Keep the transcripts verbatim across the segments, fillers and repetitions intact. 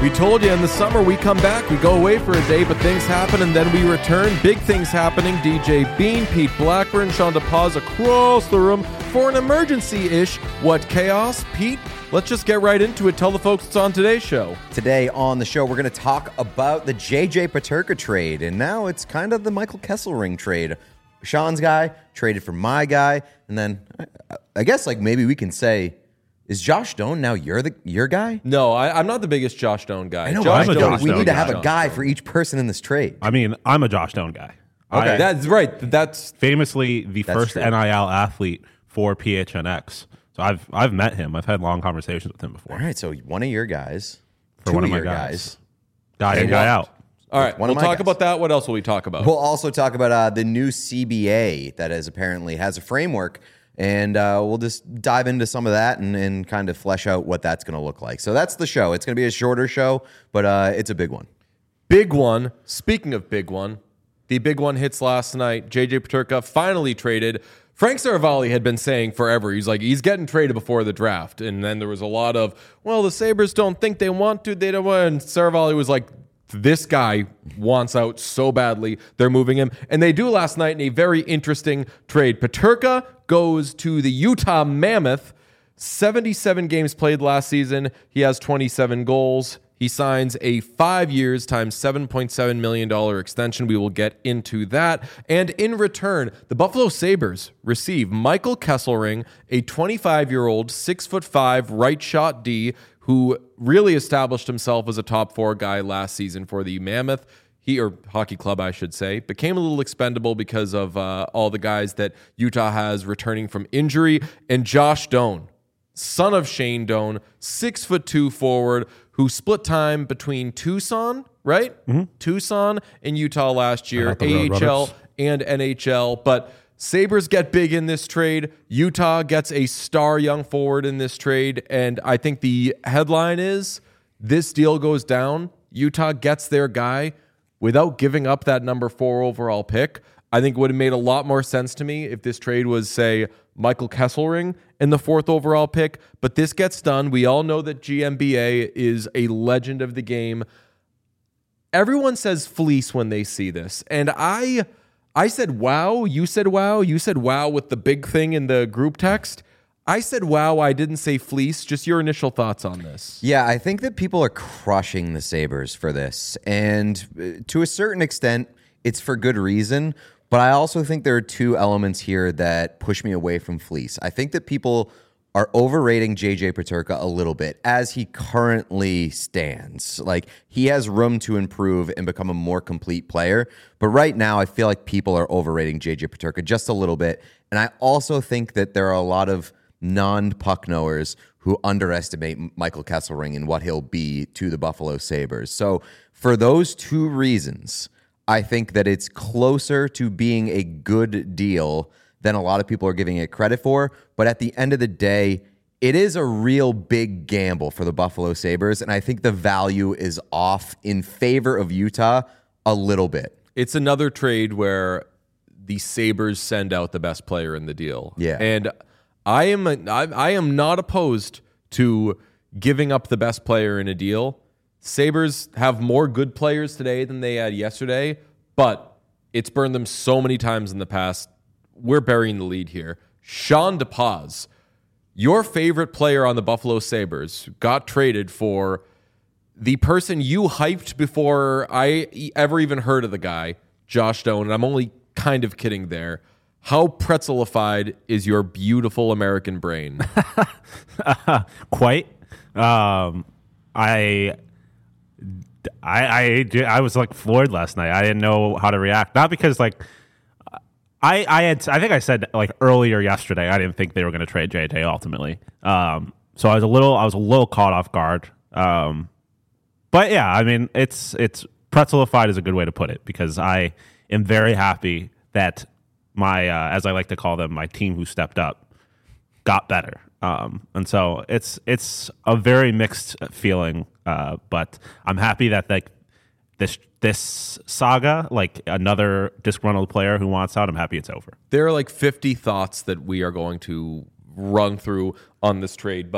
We told you in the summer we come back, we go away for a day, but things happen and then we return. Big things happening. D J Bean, Pete Blackburn, Sean DePaz across the room for an emergency-ish. What chaos? Pete, let's just get right into it. Tell the folks it's on today's show. Today on the show, we're going to talk about the J J Peterka trade, and now it's kind of the Michael Kesselring trade. Sean's guy traded for my guy, and then I, I guess like maybe we can say, is Josh Stone now you're the your guy? No, I, I'm not the biggest Josh Stone guy. I know, Josh I'm a Stone Josh is we the need to biggest have a Josh guy Stone. for each person in this trade. I mean, I'm a Josh Stone guy. Okay. I, That's right. That's famously the That's first true. N I L athlete for P H N X. So I've I've met him. I've had long conversations with him before. All right, so one of your guys, For two one of my your guys. Guy in, And guy what? out. all right. One We'll of my talk guys. about that. What else will we talk about? We'll also talk about uh, the new C B A that is apparently has a framework, and uh, we'll just dive into some of that and, and kind of flesh out what that's going to look like. So that's the show. It's going to be a shorter show, but uh, it's a big one. Big one. Speaking of big one, the big one hits last night. J J Peterka finally traded. Frank Saravalli had been saying forever, he's like, he's getting traded before the draft. And then there was a lot of, well, the Sabres don't think they want to. They don't want. And Saravalli was like, this guy wants out so badly. They're moving him. And they do last night in a very interesting trade. Peterka goes to the Utah Mammoth. seventy-seven games played last season. He has twenty-seven goals. He signs a five years times seven point seven million dollars extension. We will get into that. And in return, the Buffalo Sabres receive Michael Kesselring, a twenty-five-year-old, six foot five right shot D who really established himself as a top four guy last season for the Mammoth. He, or hockey club, I should say, became a little expendable because of uh, all the guys that Utah has returning from injury. And Josh Doan, son of Shane Doan, six foot two forward, who split time between Tucson, right? Mm-hmm. Tucson and Utah last year, A H L and N H L. But Sabres get big in this trade. Utah gets a star young forward in this trade. And I think the headline is, this deal goes down. Utah gets their guy without giving up that number four overall pick. I think it would have made a lot more sense to me if this trade was, say, Michael Kesselring in the fourth overall pick. But this gets done. We all know that G M B A is a legend of the game. Everyone says fleece when they see this. And I I said, wow. You said, wow. You said, wow, with the big thing in the group text. I said, wow. I didn't say fleece. Just your initial thoughts on this. Yeah, I think that people are crushing the Sabres for this. And uh, to a certain extent, it's for good reason. But I also think there are two elements here that push me away from fleece. I think that people are overrating J J Peterka a little bit as he currently stands. Like, he has room to improve and become a more complete player. But right now, I feel like people are overrating J J Peterka just a little bit. And I also think that there are a lot of non-puck knowers who underestimate Michael Kesselring and what he'll be to the Buffalo Sabres. So for those two reasons, I think that it's closer to being a good deal than a lot of people are giving it credit for. But at the end of the day, it is a real big gamble for the Buffalo Sabres, and I think the value is off in favor of Utah a little bit. It's another trade where the Sabres send out the best player in the deal. Yeah. And I am a, I, I am not opposed to giving up the best player in a deal. Sabres have more good players today than they had yesterday, but it's burned them so many times in the past. We're burying the lead here. Sean DePaz, your favorite player on the Buffalo Sabres, got traded for the person you hyped before I ever even heard of the guy, Josh Stone, and I'm only kind of kidding there. How pretzelified is your beautiful American brain? uh, quite. Um, I, I, I, I was like floored last night. I didn't know how to react. Not because like, I, I had, I think I said like earlier yesterday, I didn't think they were going to trade J J ultimately. Um, so I was a little, I was a little caught off guard. Um, but yeah, I mean, it's, it's pretzelified is a good way to put it, because I am very happy that my, uh, as I like to call them, my team who stepped up got better. Um, and so it's it's a very mixed feeling, uh, but I'm happy that like this this saga, like another disgruntled player who wants out, I'm happy it's over. There are like fifty thoughts that we are going to run through on this trade, but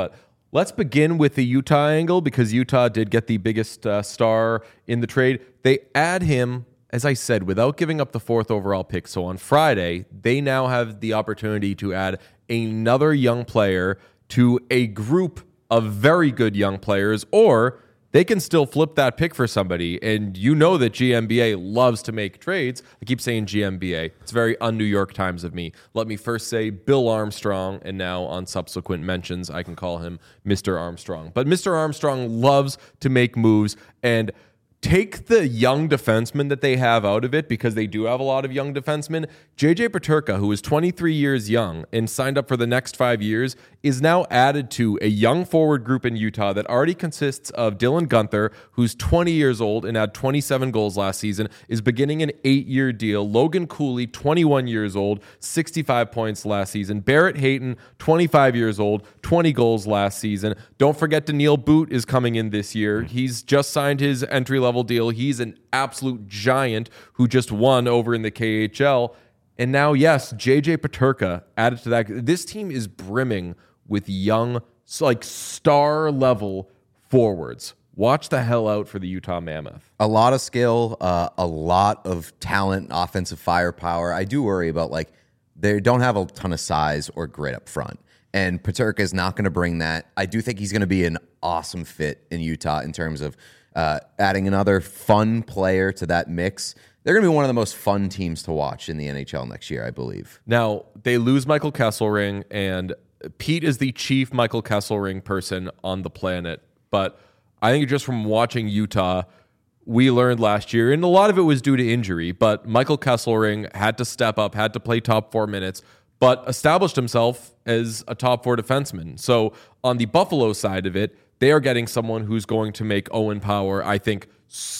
Let's begin with the Utah angle because Utah did get the biggest uh, star in the trade. They add him, as I said, without giving up the fourth overall pick. So on Friday, they now have the opportunity to add another young player to a group of very good young players, or they can still flip that pick for somebody. And you know that G M B A loves to make trades. I keep saying G M B A. It's very un-New York Times of me. Let me first say Bill Armstrong, and now on subsequent mentions, I can call him Mister Armstrong. But Mister Armstrong loves to make moves and take the young defensemen that they have out of it, because they do have a lot of young defensemen. J J Peterka, who is twenty-three years young and signed up for the next five years, is now added to a young forward group in Utah that already consists of Dylan Guenther, who's twenty years old and had twenty-seven goals last season, is beginning an eight-year deal. Logan Cooley, twenty-one years old, sixty-five points last season. Barrett Hayton, twenty-five years old, twenty goals last season. Don't forget Daniil Boot is coming in this year. He's just signed his entry-level deal. He's an absolute giant who just won over in the K H L. And now, yes, J J Peterka added to that. This team is brimming with young, like star-level forwards. Watch the hell out for the Utah Mammoth. A lot of skill, uh, a lot of talent, offensive firepower. I do worry about, like, they don't have a ton of size or grit up front. And Peterka is not going to bring that. I do think he's going to be an awesome fit in Utah in terms of uh, adding another fun player to that mix. They're going to be one of the most fun teams to watch in the N H L next year, I believe. Now, they lose Michael Kesselring, and Pete is the chief Michael Kesselring person on the planet. But I think just from watching Utah, we learned last year, and a lot of it was due to injury, but Michael Kesselring had to step up, had to play top four minutes, but established himself as a top four defenseman. So on the Buffalo side of it, they are getting someone who's going to make Owen Power, I think,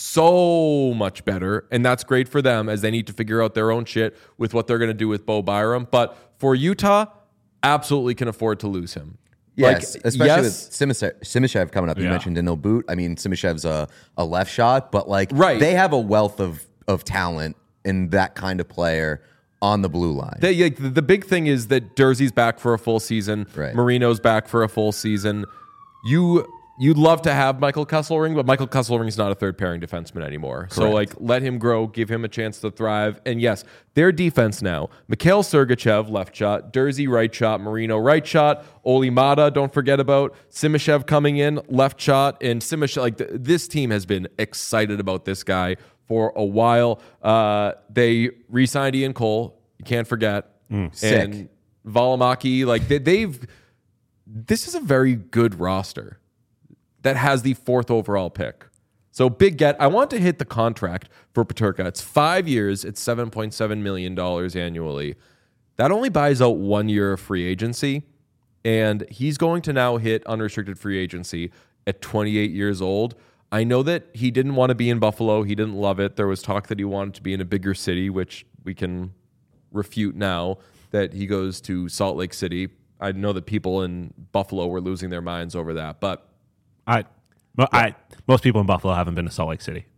so much better. And that's great for them as they need to figure out their own shit with what they're going to do with Bo Byram. But for Utah, absolutely can afford to lose him. Yes, like, especially yes, with Simishev, Simishev coming up. You Yeah. mentioned Daniil Boot. I mean, Simishev's a, a left shot, but like Right. they have a wealth of, of talent in that kind of player on the blue line. They, like, the, the big thing is that Jersey's back for a full season. Right. Marino's back for a full season. You... You'd love to have Michael Kesselring, but Michael Kesselring's not a third pairing defenseman anymore. So, like, let him grow, give him a chance to thrive. And yes, their defense now: Mikhail Sergachev, left shot; Jersey, right shot; Marino, right shot; Oli Mata, don't forget about; Simishev coming in, left shot. And Simishev, like, th- this team has been excited about this guy for a while. Uh, they re-signed Ian Cole. You can't forget. sick. And Valimaki, like, they, they've. This is a very good roster that has the fourth overall pick. So big get. I want to hit the contract for Peterka. It's five years. It's seven point seven million dollars annually. That only buys out one year of free agency. And he's going to now hit unrestricted free agency at twenty-eight years old. I know that he didn't want to be in Buffalo. He didn't love it. There was talk that he wanted to be in a bigger city, which we can refute now that he goes to Salt Lake City. I know that people in Buffalo were losing their minds over that, but I, well, I, most people in Buffalo haven't been to Salt Lake City.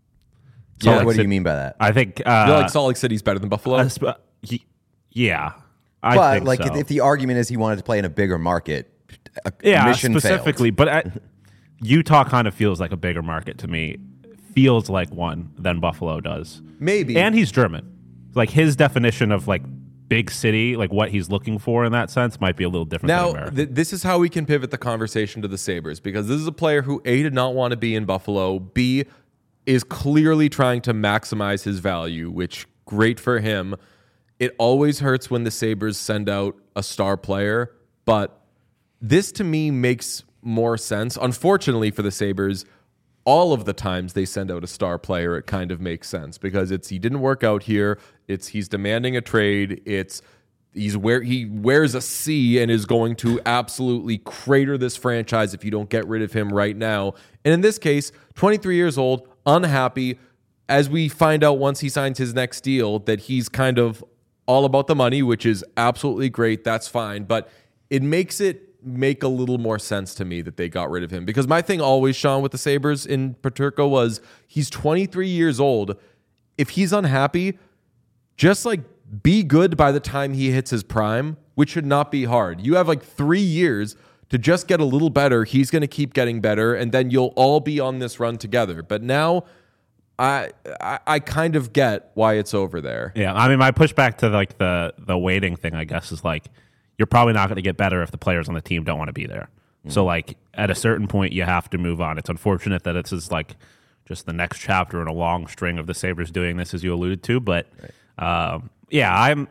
So Yeah. what do City- you mean by that? I think. Uh, I feel like Salt Lake City's better than Buffalo. uh, sp- y- yeah, I but think like, so. if, if the argument is he wanted to play in a bigger market, a yeah, mission specifically, failed. but I, Utah kind of feels like a bigger market to me. Feels like one than Buffalo does. Maybe. And he's German. Like his definition of like big city, like what he's looking for in that sense, might be a little different than Now, America. th- this is how we can pivot the conversation to the Sabres, because this is a player who, A, did not want to be in Buffalo, B, is clearly trying to maximize his value, which, great for him. It always hurts when the Sabres send out a star player, but this to me makes more sense. Unfortunately for the Sabres, all of the times they send out a star player, it kind of makes sense because it's he didn't work out here. It's he's demanding a trade. It's he's where he wears a C and is going to absolutely crater this franchise if you don't get rid of him right now. And in this case, twenty-three years old, unhappy. As we find out once he signs his next deal, that he's kind of all about the money, which is absolutely great. That's fine, but it makes it make a little more sense to me that they got rid of him, because my thing always, Sean, with the Sabres in Peterka was he's twenty-three years old. If he's unhappy, just like be good by the time he hits his prime, which should not be hard. You have like three years to just get a little better. He's going to keep getting better, and then you'll all be on this run together. But now I, I I kind of get why it's over there. Yeah, I mean, my pushback to like the the waiting thing, I guess, is like you're probably not going to get better if the players on the team don't want to be there. Mm-hmm. So like at a certain point, you have to move on. It's unfortunate that it's just like just the next chapter in a long string of the Sabres doing this, as you alluded to. But right. um, yeah, I'm.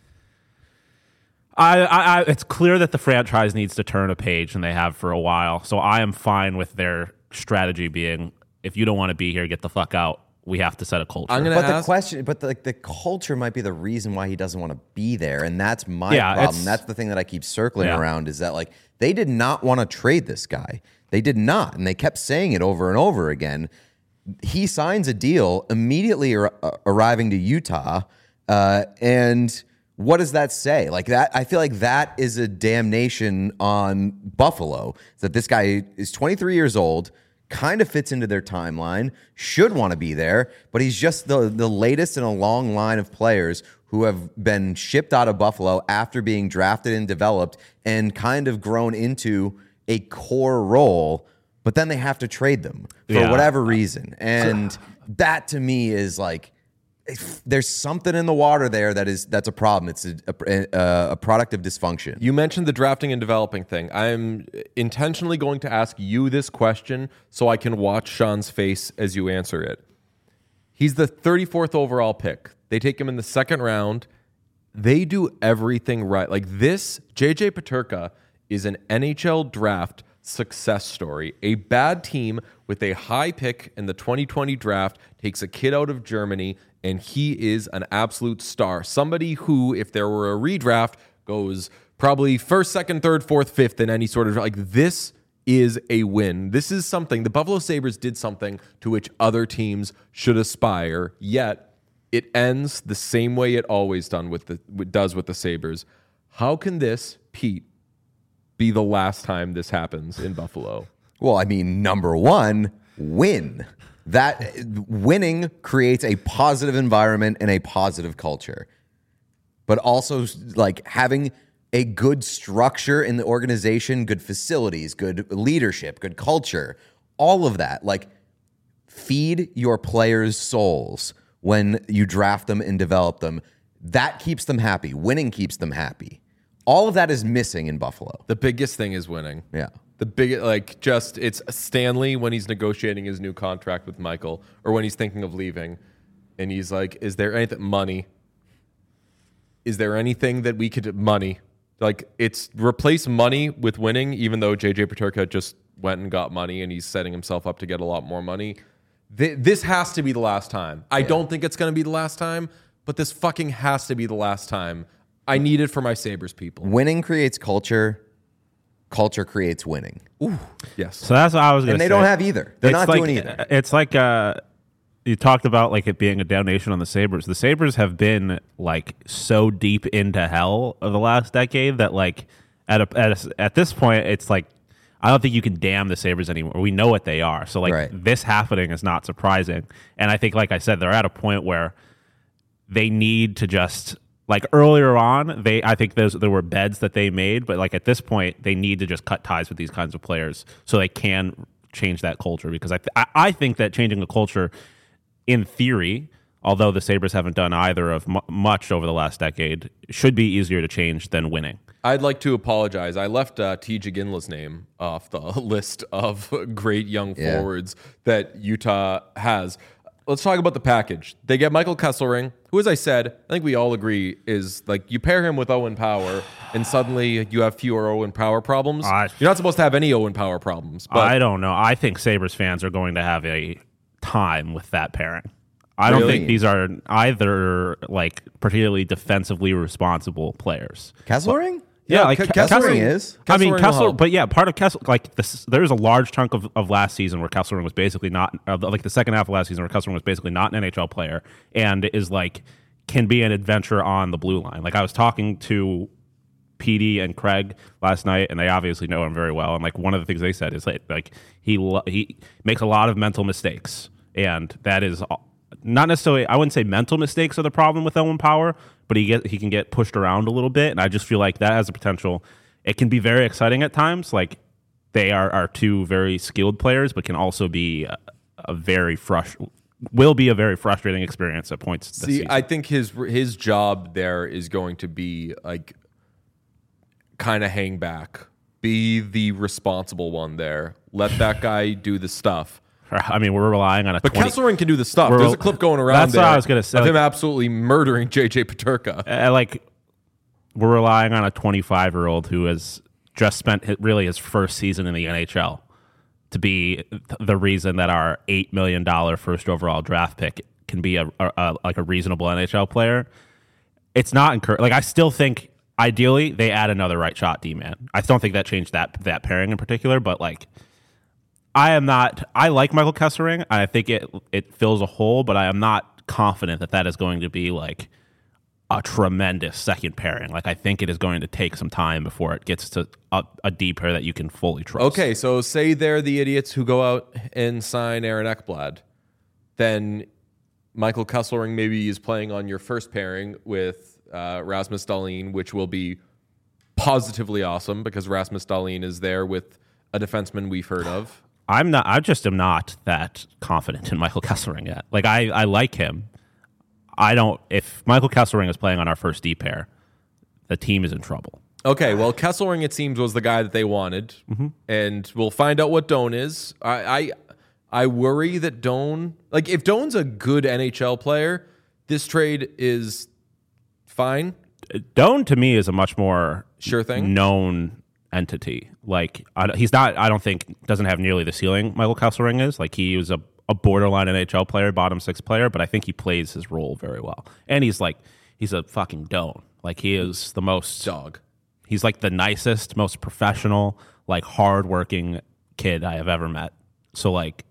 I, I, I, it's clear that the franchise needs to turn a page, and they have for a while. So I am fine with their strategy being, if you don't want to be here, get the fuck out. We have to set a culture. I'm gonna but ask, the question, but the, the culture might be the reason why he doesn't want to be there, and that's my yeah, problem. That's the thing that I keep circling yeah. around is that like they did not want to trade this guy. They did not, and they kept saying it over and over again. He signs a deal immediately ar- arriving to Utah, uh, and what does that say? Like that, I feel like that is a damnation on Buffalo. That this guy is twenty-three years old. Kind of fits into their timeline, should want to be there, but he's just the, the latest in a long line of players who have been shipped out of Buffalo after being drafted and developed and kind of grown into a core role, but then they have to trade them for yeah. whatever reason. And that to me is like, there's something in the water there that is that's a problem. It's a, a, a product of dysfunction. You mentioned the drafting and developing thing. I'm intentionally going to ask you this question so I can watch Sean's face as you answer it. He's the thirty-fourth overall pick. They take him in the second round. They do everything right. Like this, J J Peterka is an N H L draft success story. A bad team with a high pick in the twenty twenty draft takes a kid out of Germany, and he is an absolute star. Somebody who, if there were a redraft, goes probably first, second, third, fourth, fifth in any sort of, like, this is a win. This is something, the Buffalo Sabres did something to which other teams should aspire, yet it ends the same way it always done with the it does with the Sabres. How can this, Pete, be the last time this happens in Buffalo? Well, I mean, number one, win. That winning creates a positive environment and a positive culture, but also like having a good structure in the organization, good facilities, good leadership, good culture, all of that. Like feed your players' souls when you draft them and develop them. That keeps them happy. Winning keeps them happy. All of that is missing in Buffalo. The biggest thing is winning. Yeah. The big, like, just, it's Stanley when he's negotiating his new contract with Michael, or when he's thinking of leaving, and he's like, is there anything, money? Is there anything that we could, money? Like, it's replace money with winning, even though J J Peterka just went and got money, and he's setting himself up to get a lot more money. Th- this has to be the last time. I yeah. don't think it's going to be the last time, but this fucking has to be the last time. I need it for my Sabres people. Winning creates culture. Culture creates winning. Ooh, yes. So that's what I was going to say. And they don't have either. They're it's not like, doing either. It's like uh, you talked about like it being a damnation on the Sabres. The Sabres have been like so deep into hell of the last decade that like at a, at a, at this point it's like I don't think you can damn the Sabres anymore. We know what they are. So like right. this happening is not surprising. And I think like I said, they're at a point where they need to just. Like earlier on, they I think those there were beds that they made, but like at this point, they need to just cut ties with these kinds of players so they can change that culture. Because I th- I think that changing the culture, in theory, although the Sabres haven't done either of m- much over the last decade, should be easier to change than winning. I'd like to apologize. I left uh, T. Ginla's name off the list of great young yeah. forwards that Utah has. Let's talk about the package. They get Michael Kesselring, who, as I said, I think we all agree is like you pair him with Owen Power, and suddenly you have fewer Owen Power problems. Uh, You're not supposed to have any Owen Power problems. But I don't know. I think Sabres fans are going to have a time with that pairing. I really? don't think these are either like particularly defensively responsible players. Kesselring? Yeah, yeah, like K- Kesselring is. I mean, Kessler, but yeah, part of Kessler, like this, there's a large chunk of, of last season where Kesselring was basically not, uh, like the second half of last season where Kesselring was basically not an N H L player and is like, can be an adventure on the blue line. Like I was talking to P D and Craig last night, and they obviously know him very well. And like one of the things they said is like, like he he makes a lot of mental mistakes, and that is not necessarily. I wouldn't say mental mistakes are the problem with Owen Power, but he get he can get pushed around a little bit, and I just feel like that has the potential. it can be very exciting at times. Like they are, are two very skilled players, but can also be a, a very frust- will be a very frustrating experience at points. This See, season. I think his his job there is going to be like kind of hang back, be the responsible one there. Let that guy do the stuff. I mean, we're relying on a. But twenty Kesselring can do the stuff. We're- There's a clip going around That's there what I was gonna say. of Like- him absolutely murdering J J Peterka. uh, like we're relying on a twenty-five year old who has just spent his, really his first season in the N H L to be th- the reason that our eight million dollars first overall draft pick can be a, a, a like a reasonable N H L player. It's not encouraging. Like I still think ideally they add another right shot D man. I don't think that changed that that pairing in particular, but like I am not. I like Michael Kesselring. I think it it fills a hole, but I am not confident that that is going to be like a tremendous second pairing. Like I think it is going to take some time before it gets to a, a deep pair that you can fully trust. Okay, so say they're the idiots who go out and sign Aaron Ekblad. Then Michael Kesselring maybe is playing on your first pairing with uh, Rasmus Dahlin, which will be positively awesome because Rasmus Dahlin is there with a defenseman we've heard of. I'm not. I just am not that confident in Michael Kesselring yet. Like I, I like him. I don't. If Michael Kesselring is playing on our first D pair, the team is in trouble. Okay, well, Kesselring, it seems, was the guy that they wanted, Mm-hmm. and we'll find out what Doan is. I, I, I worry that Doan, like, if Doan's a good N H L player, this trade is fine. Doan to me is a much more Sure thing. known entity. Like I, he's not. I don't think doesn't have nearly the ceiling Michael Kesselring is. Like he was a, a borderline N H L player, bottom six player, but I think he plays his role very well. And he's like he's a fucking Doan. Like he is the most Dog. He's like the nicest, most professional, like hardworking kid I have ever met. So like,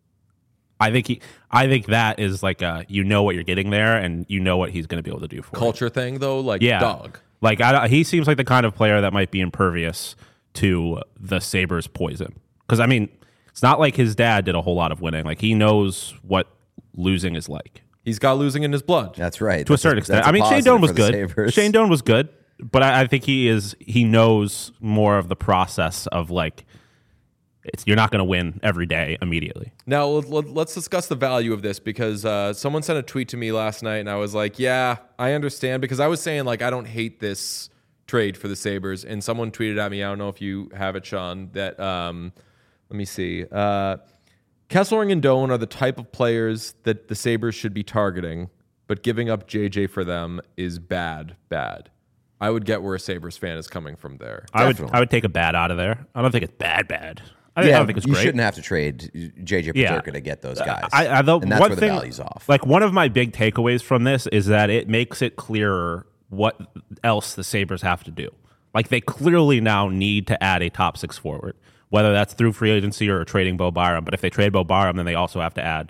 I think he, I think that is like a, you know what you're getting there, and you know what he's going to be able to do for you. Culture thing, though, like, Yeah, dog. Like I, he seems like the kind of player that might be impervious to the Sabres' poison. Because I mean, it's not like his dad did a whole lot of winning. Like he knows what losing is like. He's got losing in his blood. That's right. To a certain extent. I mean, Shane Doan was good. Shane Doan was good, but I, I think he is. He knows more of the process of like, it's you're not going to win every day immediately. Now, let- let- let's discuss the value of this because uh, someone sent a tweet to me last night, and I was like, yeah, I understand. Because I was saying, like, I don't hate this trade for the Sabres. And someone tweeted at me, I don't know if you have it, Sean, that, um, let me see. Uh, Kesselring and Doan are the type of players that the Sabres should be targeting, but giving up J J for them is bad, bad. I would get where a Sabres fan is coming from there. I would. Definitely. I would take a bad out of there. I don't think it's bad. Bad. I, I Yeah, don't think it's you great. shouldn't have to trade J J Yeah. Peterka to get those guys. I, I, the, and that's one where thing, the value's off. Like one of my big takeaways from this is that it makes it clearer what else the Sabres have to do. Like they clearly now need to add a top six forward, whether that's through free agency or trading Bo Byram. But if they trade Bo Byram, then they also have to add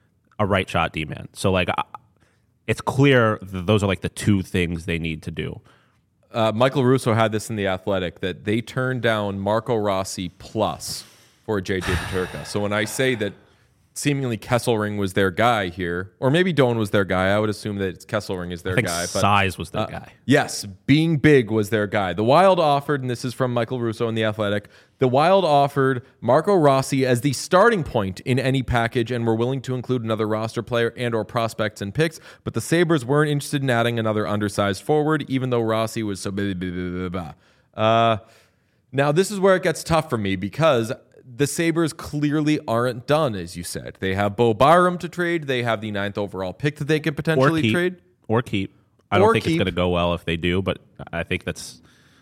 a right shot D man. So like I- it's clear that those are like the two things they need to do. Uh, Michael Russo had this in The Athletic that they turned down Marco Rossi plus for J J Peterka. So when I say that seemingly Kesselring was their guy here, or maybe Doan was their guy, I would assume that Kesselring is their I think guy. But size was their uh, guy. Yes, being big was their guy. The Wild offered, and this is from Michael Russo in The Athletic, the Wild offered Marco Rossi as the starting point in any package and were willing to include another roster player and or prospects and picks, but the Sabres weren't interested in adding another undersized forward, even though Rossi was so blah, blah, blah, blah, blah. Uh, now, this is where it gets tough for me because the Sabres clearly aren't done, as you said. They have Bo Byram to trade. They have the ninth overall pick that they could Or potentially keep. trade. Or keep. I Or don't think keep. it's going to go well if they do, but I think that's.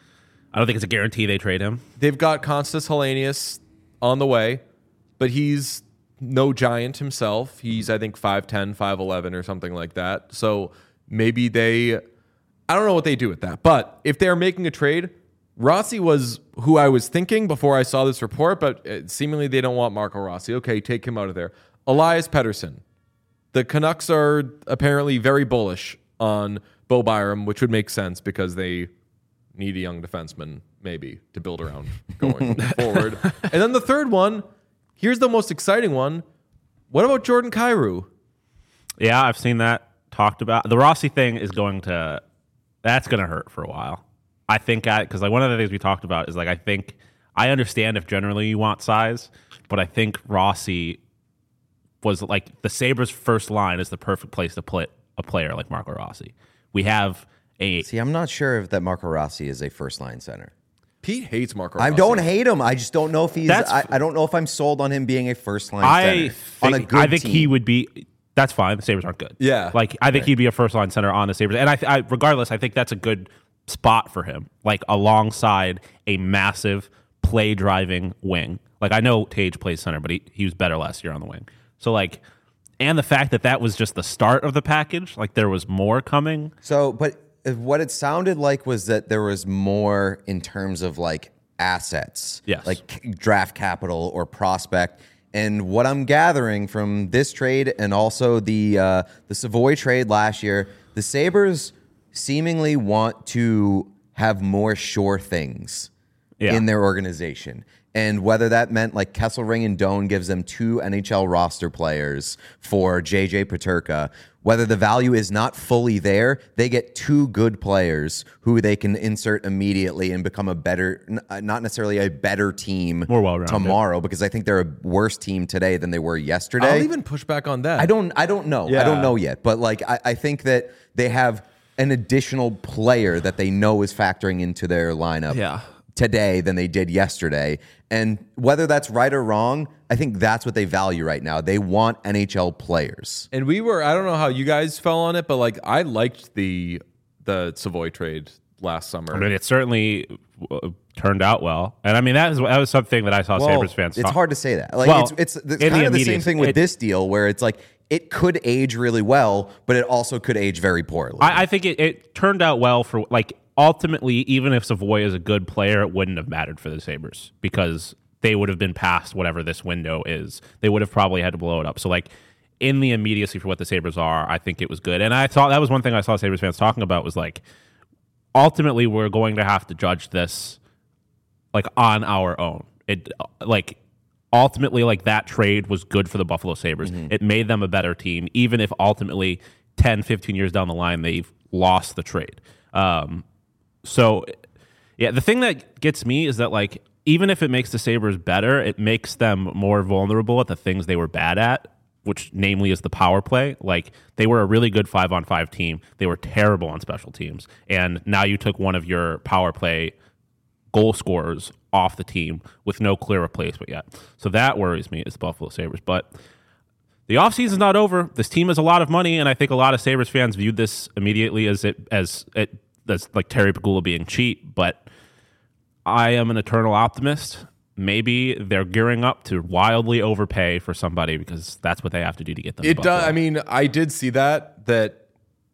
I don't think it's a guarantee they trade him. They've got Konstas Hellenius on the way, but he's no giant himself. He's, I think, five ten, five eleven or something like that. So maybe they, I don't know what they do with that. But if they're making a trade, Rossi was who I was thinking before I saw this report, but uh, seemingly they don't want Marco Rossi. Okay, take him out of there. Elias Pettersson. The Canucks are apparently very bullish on Bo Byram, which would make sense because they need a young defenseman, maybe, to build around going forward. And then the third one, here's the most exciting one. What about Jordan Kyrou? Yeah, I've seen that talked about. The Rossi thing is going to, that's going to hurt for a while. I think I because like one of the things we talked about is like I think I understand if generally you want size, but I think Rossi was like the Sabres' first line is the perfect place to put a player like Marco Rossi. We have a See, I'm not sure if that Marco Rossi is a first line center. Pete hates Marco I Rossi. don't hate him. I just don't know if he's. That's- I, I don't know if I'm sold on him being a first line I center think, on a good I think team. he would be. That's fine. The Sabres aren't good. Yeah. like I think he'd be a first line center on the Sabres, and I, I regardless, I think that's a good spot for him. Like alongside a massive play driving wing. Like I know Tage plays center, but he he was better last year on the wing. So like, and the fact that that was just the start of the package, like there was more coming. So, but what it sounded like was that there was more in terms of like assets, Yes. like c- draft capital or prospect. And what I'm gathering from this trade and also the uh, the Savoy trade last year, the Sabres seemingly want to have more sure things Yeah. in their organization. And whether that meant like Kesselring and Doan gives them two N H L roster players for J J Peterka, whether the value is not fully there, they get two good players who they can insert immediately and become a better, n- not necessarily a better team More well-rounded. tomorrow, because I think they're a worse team today than they were yesterday. I'll even push back on that. I don't I don't know. I Yeah. don't know yet. But like I, I think that they have an additional player that they know is factoring into their lineup Yeah. today than they did yesterday. And whether that's right or wrong, I think that's what they value right now. They want N H L players. And we were, I don't know how you guys fell on it, but like I liked the the Savoy trade last summer. I mean, it certainly uh, turned out well, and I mean that was that was something that I saw Sabres fans. It's talk- hard to say that. Like Well, it's it's, it's in kind the of the same immediate- thing with it- this deal where it's like it could age really well, but it also could age very poorly. I, I think it, it turned out well for like ultimately, even if Savoy is a good player, it wouldn't have mattered for the Sabres because they would have been past whatever this window is. They would have probably had to blow it up. So like in the immediacy for what the Sabres are, I think it was good. And I thought that was one thing I saw Sabres fans talking about was like ultimately we're going to have to judge this like on our own. It like ultimately like that trade was good for the Buffalo Sabres. It made them a better team, even if ultimately ten, fifteen years down the line they've lost the trade. Um, so yeah, the thing that gets me is that like even if it makes the Sabres better, it makes them more vulnerable at the things they were bad at, which namely is the power play. Like they were a really good five on five team. They were terrible on special teams. And now you took one of your power play goal scorers off the team with no clear replacement yet. So that worries me as the Buffalo Sabres. But the offseason's not over. This team has a lot of money, and I think a lot of Sabres fans viewed this immediately as it as it as like Terry Pegula being cheap, but I am an eternal optimist. Maybe they're gearing up to wildly overpay for somebody because that's what they have to do to get them. It to does. Buffalo. I mean, I did see that that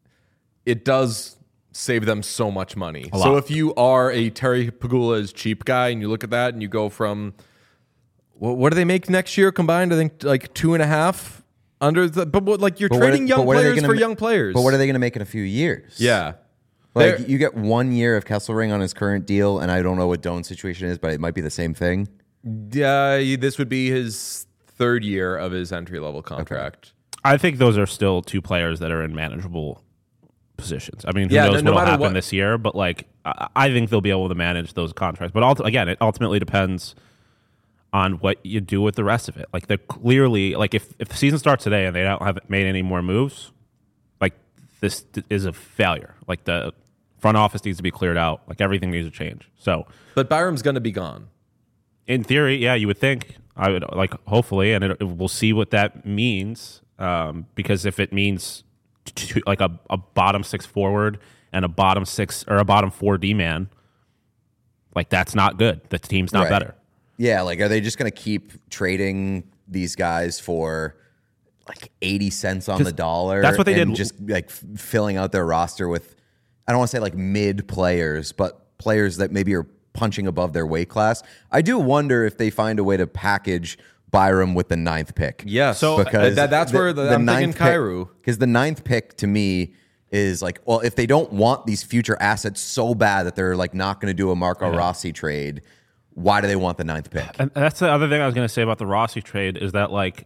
it does save them so much money. A So lot. if you are a Terry Pegula's cheap guy and you look at that and you go from what, what do they make next year combined? I think like two and a half under the. But what, like you're But what are- trading but young what are they players gonna for ma- young players. But what are they going to make in a few years? Yeah. Like They're- you get one year of Kesselring on his current deal, and I don't know what Doan's situation is, but it might be the same thing. Yeah, this would be his third year of his entry level contract. I think those are still two players that are in manageable positions. I mean, who Yeah, knows no- no what'll matter happen what- this year, but like I, I think they'll be able to manage those contracts. But ulti- again, it ultimately depends on what you do with the rest of it. Like they're clearly like if if the season starts today and they don't have made any more moves, like this is a failure. Like the front office needs to be cleared out. Like everything needs to change. So But Byram's going to be gone. in theory, yeah, you would think. I would like hopefully, and it, it- we'll see what that means. Um, because if it means t- like a, a bottom six forward and a bottom six or a bottom four D man, like that's not good. The team's not Right. better. Yeah, like are they just going to keep trading these guys for like eighty cents on the dollar? that's what they and did. Just like f- filling out their roster with, I don't want to say like mid players, but players that maybe are punching above their weight class. I do wonder if they find a way to package Byram with the ninth pick. Yes. So, Uh, that- that's where the- I'm thinking Kyrou. Because the ninth pick to me is like, well, if they don't want these future assets so bad that they're like not going to do a Marco Rossi trade, why do they want the ninth pick? And that's the other thing I was going to say about the Rossi trade is that like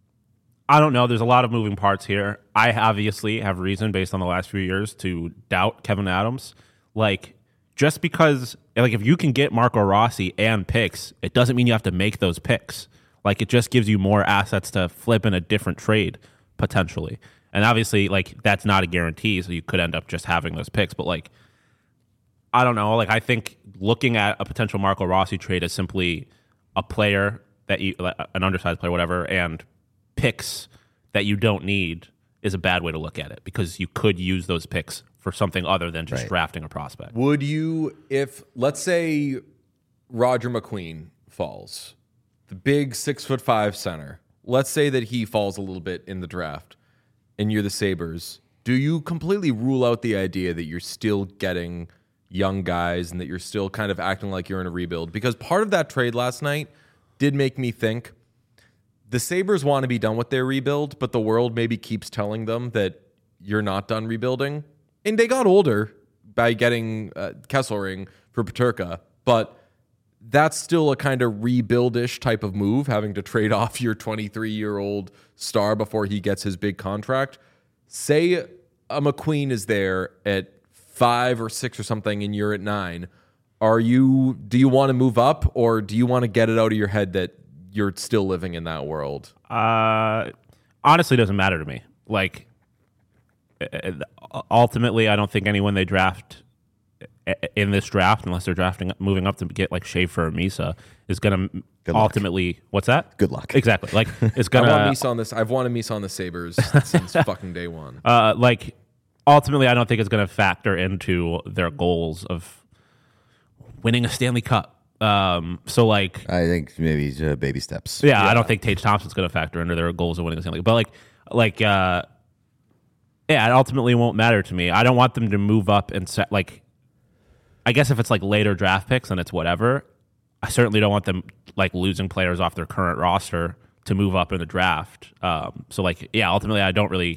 I don't know. There's a lot of moving parts here. I obviously have reason based on the last few years to doubt Kevin Adams. Like just because, like, if you can get Marco Rossi and picks, it doesn't mean you have to make those picks. Like, it just gives you more assets to flip in a different trade potentially. And obviously, like, that's not a guarantee, so you could end up just having those picks. But, like, I don't know. Like, I think looking at a potential Marco Rossi trade as simply a player that you, like, an undersized player, whatever, and picks that you don't need is a bad way to look at it, because you could use those picks for something other than just Right. drafting a prospect. Would you, if, let's say, Roger McQueen falls, the big six foot five center, let's say that he falls a little bit in the draft, and you're the Sabres, do you completely rule out the idea that you're still getting young guys and that you're still kind of acting like you're in a rebuild? Because part of that trade last night did make me think the Sabres want to be done with their rebuild, but the world maybe keeps telling them that you're not done rebuilding. And they got older by getting uh, Kesselring for Peterka, but that's still a kind of rebuild-ish type of move, having to trade off your twenty-three-year-old star before he gets his big contract. Say a McQueen is there at five or six or something, and you're at nine. Are you? Do you want to move up, or do you want to get it out of your head that you're still living in that world? Uh, honestly, it doesn't matter to me. Like, ultimately, I don't think anyone they draft in this draft, unless they're drafting, moving up to get like Schaefer or Misa, is going to ultimately. What's that? Good luck. Exactly. Like, it's going I to. want Misa on this. I've wanted Misa on the Sabres since fucking day one. Uh, like, ultimately, I don't think it's going to factor into their goals of winning a Stanley Cup. Um, so like, I think maybe uh, baby steps. yeah, I don't think Tage Thompson's going to factor into their goals of winning a Stanley Cup. But like, like, uh, yeah, it ultimately won't matter to me. I don't want them to move up and set like. I guess if it's like later draft picks and it's whatever, I certainly don't want them like losing players off their current roster to move up in the draft. Um, so like, yeah, ultimately I don't really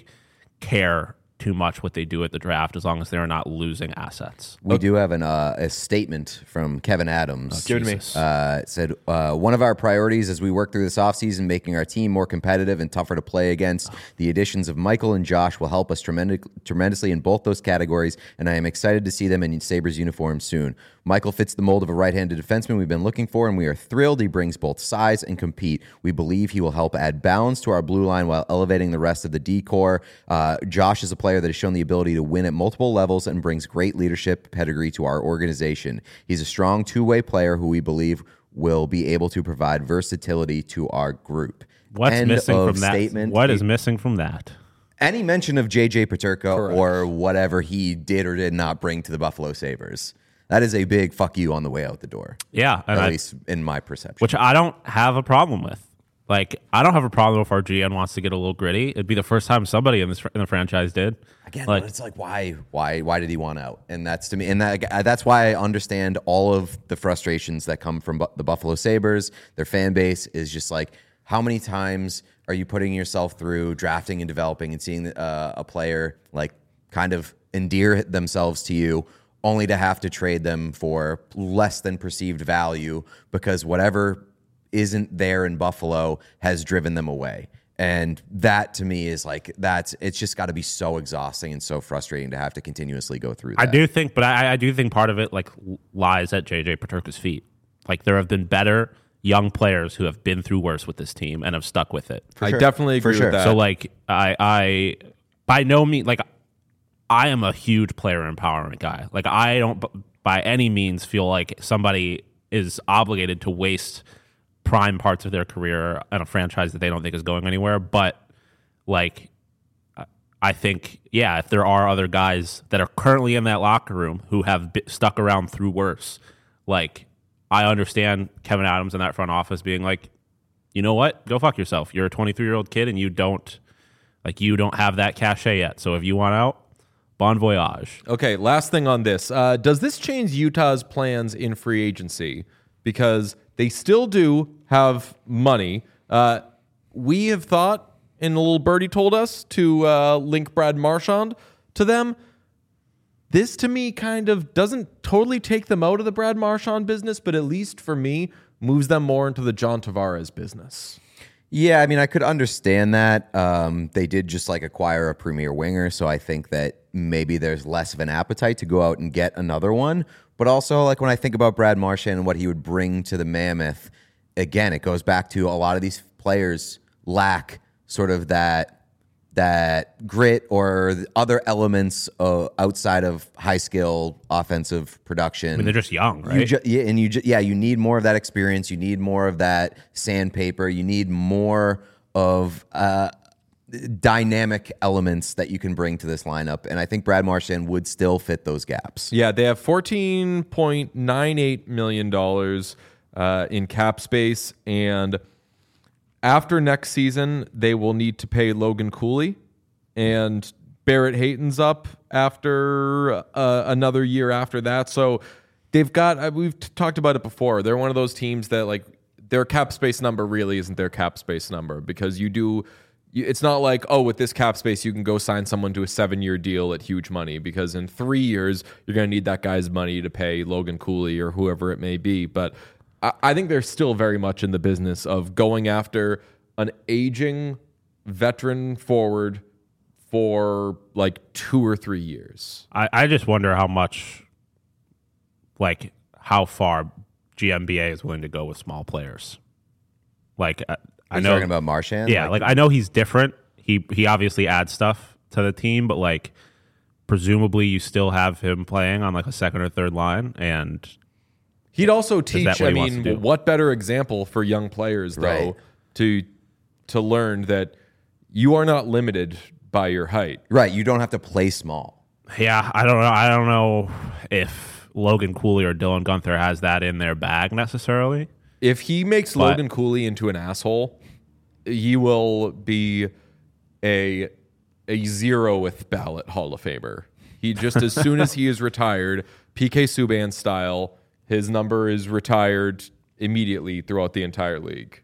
care too much what they do at the draft as long as they're not losing assets. We do have an, uh, a statement from Kevin Adams. Give it to me. Uh, it said, uh, one of our priorities as we work through this offseason, making our team more competitive and tougher to play against. The additions of Michael and Josh will help us tremendous, tremendously in both those categories, and I am excited to see them in Sabres uniforms soon. Michael fits the mold of a right-handed defenseman we've been looking for, and we are thrilled he brings both size and compete. We believe he will help add balance to our blue line while elevating the rest of the D-core. Uh, Josh is a player that has shown the ability to win at multiple levels and brings great leadership pedigree to our organization. He's a strong two-way player who we believe will be able to provide versatility to our group. What's End missing of from that? statement. What is missing from that? Any mention of J J Peterka Correct. or whatever he did or did not bring to the Buffalo Sabres. That is a big fuck you on the way out the door. Yeah, and At I, least in my perception. which I don't have a problem with. Like, I don't have a problem if our G M wants to get a little gritty. It'd be the first time somebody in this in the franchise did. Again, like, but it's like why, why, why did he want out? And that's to me, and that, that's why I understand all of the frustrations that come from bu- the Buffalo Sabres. Their fan base is just like, how many times are you putting yourself through drafting and developing and seeing uh, a player like kind of endear themselves to you, only to have to trade them for less than perceived value because whatever isn't there in Buffalo has driven them away. And that to me is like, that's, it's just got to be so exhausting and so frustrating to have to continuously go through that. I do think, but I, I do think part of it like lies at J J Peterka's feet. Like, there have been better young players who have been through worse with this team and have stuck with it. I sure. definitely For agree sure. with that. So like, I, I, by no means, like, I am a huge player empowerment guy. Like, I don't b- by any means feel like somebody is obligated to waste prime parts of their career on a franchise that they don't think is going anywhere. But like, I think, yeah, if there are other guys that are currently in that locker room who have b- stuck around through worse, like, I understand Kevin Adams in that front office being like, you know what, go fuck yourself. You're a twenty-three-year-old kid and you don't, like, you don't have that cachet yet. So if you want out, bon voyage. Okay, last thing on this. Uh, does this change Utah's plans in free agency? Because they still do have money. Uh, we have thought, and a little birdie told us, to uh, link Brad Marchand to them. This, to me, kind of doesn't totally take them out of the Brad Marchand business, but at least for me, moves them more into the John Tavares business. Yeah, I mean, I could understand that. Um, they did just like acquire a premier winger, so I think that maybe there's less of an appetite to go out and get another one. But also, like when I think about Brad Marchand and what he would bring to the Mammoth, again, it goes back to a lot of these players lack sort of that that grit or the other elements uh, outside of high skill offensive production. I mean, they're just young, right? You ju- yeah, and you ju- yeah, you need more of that experience. You need more of that sandpaper. You need more of uh, dynamic elements that you can bring to this lineup. And I think Brad Marchand would still fit those gaps. Yeah, they have fourteen point nine eight million dollars uh, in cap space, and after next season, they will need to pay Logan Cooley, and Barrett Hayton's up after uh, another year after that. So they've got, uh, we've t- talked about it before. They're one of those teams that like their cap space number really isn't their cap space number, because you do, you, it's not like, oh, with this cap space, you can go sign someone to a seven year deal at huge money, because in three years, you're going to need that guy's money to pay Logan Cooley or whoever it may be. But I think they're still very much in the business of going after an aging veteran forward for like two or three years. I, I just wonder how much, like, how far G M B A is willing to go with small players. Like, I, I You're know talking about Marchand? Yeah, like, I know he's different. He he obviously adds stuff to the team, but like, presumably you still have him playing on like a second or third line, and he'd also that teach. what I he wants to mean, do? what better example for young players though Right. to to learn that you are not limited by your height. Right. You don't have to play small. yeah, I don't know. I don't know if Logan Cooley or Dylan Gunther has that in their bag necessarily. If he makes But- Logan Cooley into an asshole, he will be a a zeroth ballot Hall of Famer. He just as soon as he is retired, P K Subban style, his number is retired immediately throughout the entire league.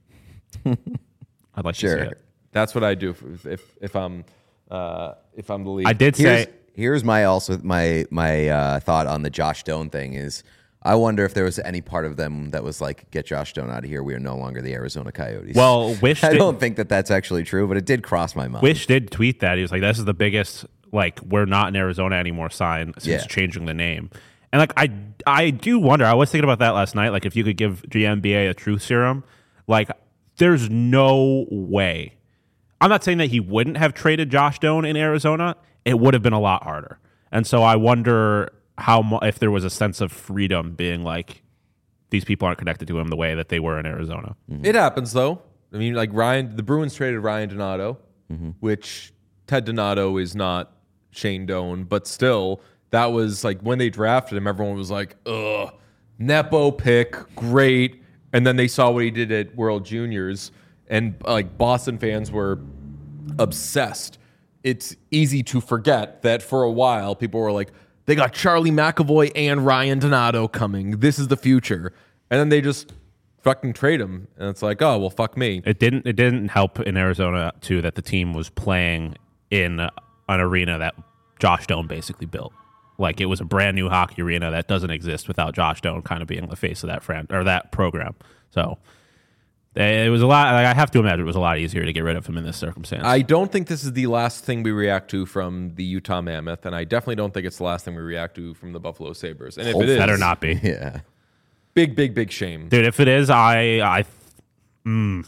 I'd like Sure. to see it. That's what I do if if, if I'm uh, if I'm the league. I did Here's, say here's my also my my uh, thought on the Josh Stone thing is I wonder if there was any part of them that was like, get Josh Stone out of here. We are no longer the Arizona Coyotes. Well, Wish I did, don't think that that's actually true, but it did cross my mind. Wish did tweet that. He was like, "This is the biggest, like, we're not in Arizona anymore sign since Yeah. changing the name." And like, I I do wonder. I was thinking about that last night. Like, if you could give G M B A a truth serum, like, there's no way. I'm not saying that he wouldn't have traded Josh Stone in Arizona. It would have been a lot harder. And so I wonder how mu- if there was a sense of freedom being like, these people aren't connected to him the way that they were in Arizona. It happens though. I mean, like Ryan, the Bruins traded Ryan Donato, which Ted Donato is not Shane Doan, but still, that was like when they drafted him, everyone was like, ugh, Nepo pick, great. And then they saw what he did at World Juniors, and like Boston fans were obsessed. It's easy to forget that for a while, people were like, they got Charlie McAvoy and Ryan Donato coming. This is the future. And then they just fucking trade him. And it's like, oh, well, fuck me. It didn't. It didn't help in Arizona too that the team was playing in an arena that Josh Stone basically built. Like, it was a brand new hockey arena that doesn't exist without Josh Stone kind of being the face of that fran- or that program. So it was a lot. Like, I have to imagine it was a lot easier to get rid of him in this circumstance. I don't think this is the last thing we react to from the Utah Mammoth, and I definitely don't think it's the last thing we react to from the Buffalo Sabres. And if it is, Better not be, yeah. big, big, big shame. dude. If it is, I I mm,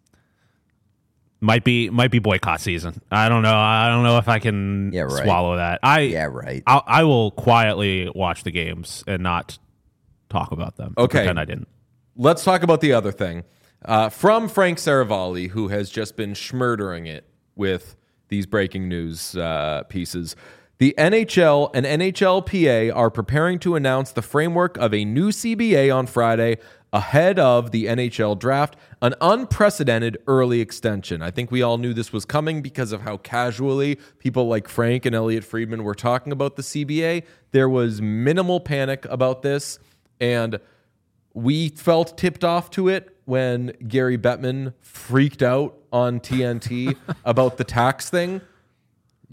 might be might be boycott season. I don't know. I don't know if I can Yeah, right. swallow that. I Yeah, right. I'll, I will quietly watch the games and not talk about them. Okay. Pretend I didn't. Let's talk about the other thing. Uh, from Frank Saravalli, who has just been schmurdering it with these breaking news uh, pieces. The N H L and N H L P A are preparing to announce the framework of a new C B A on Friday ahead of the N H L draft, an unprecedented early extension. I think we all knew this was coming because of how casually people like Frank and Elliot Friedman were talking about the C B A. There was minimal panic about this, and we felt tipped off to it when Gary Bettman freaked out on T N T about the tax thing.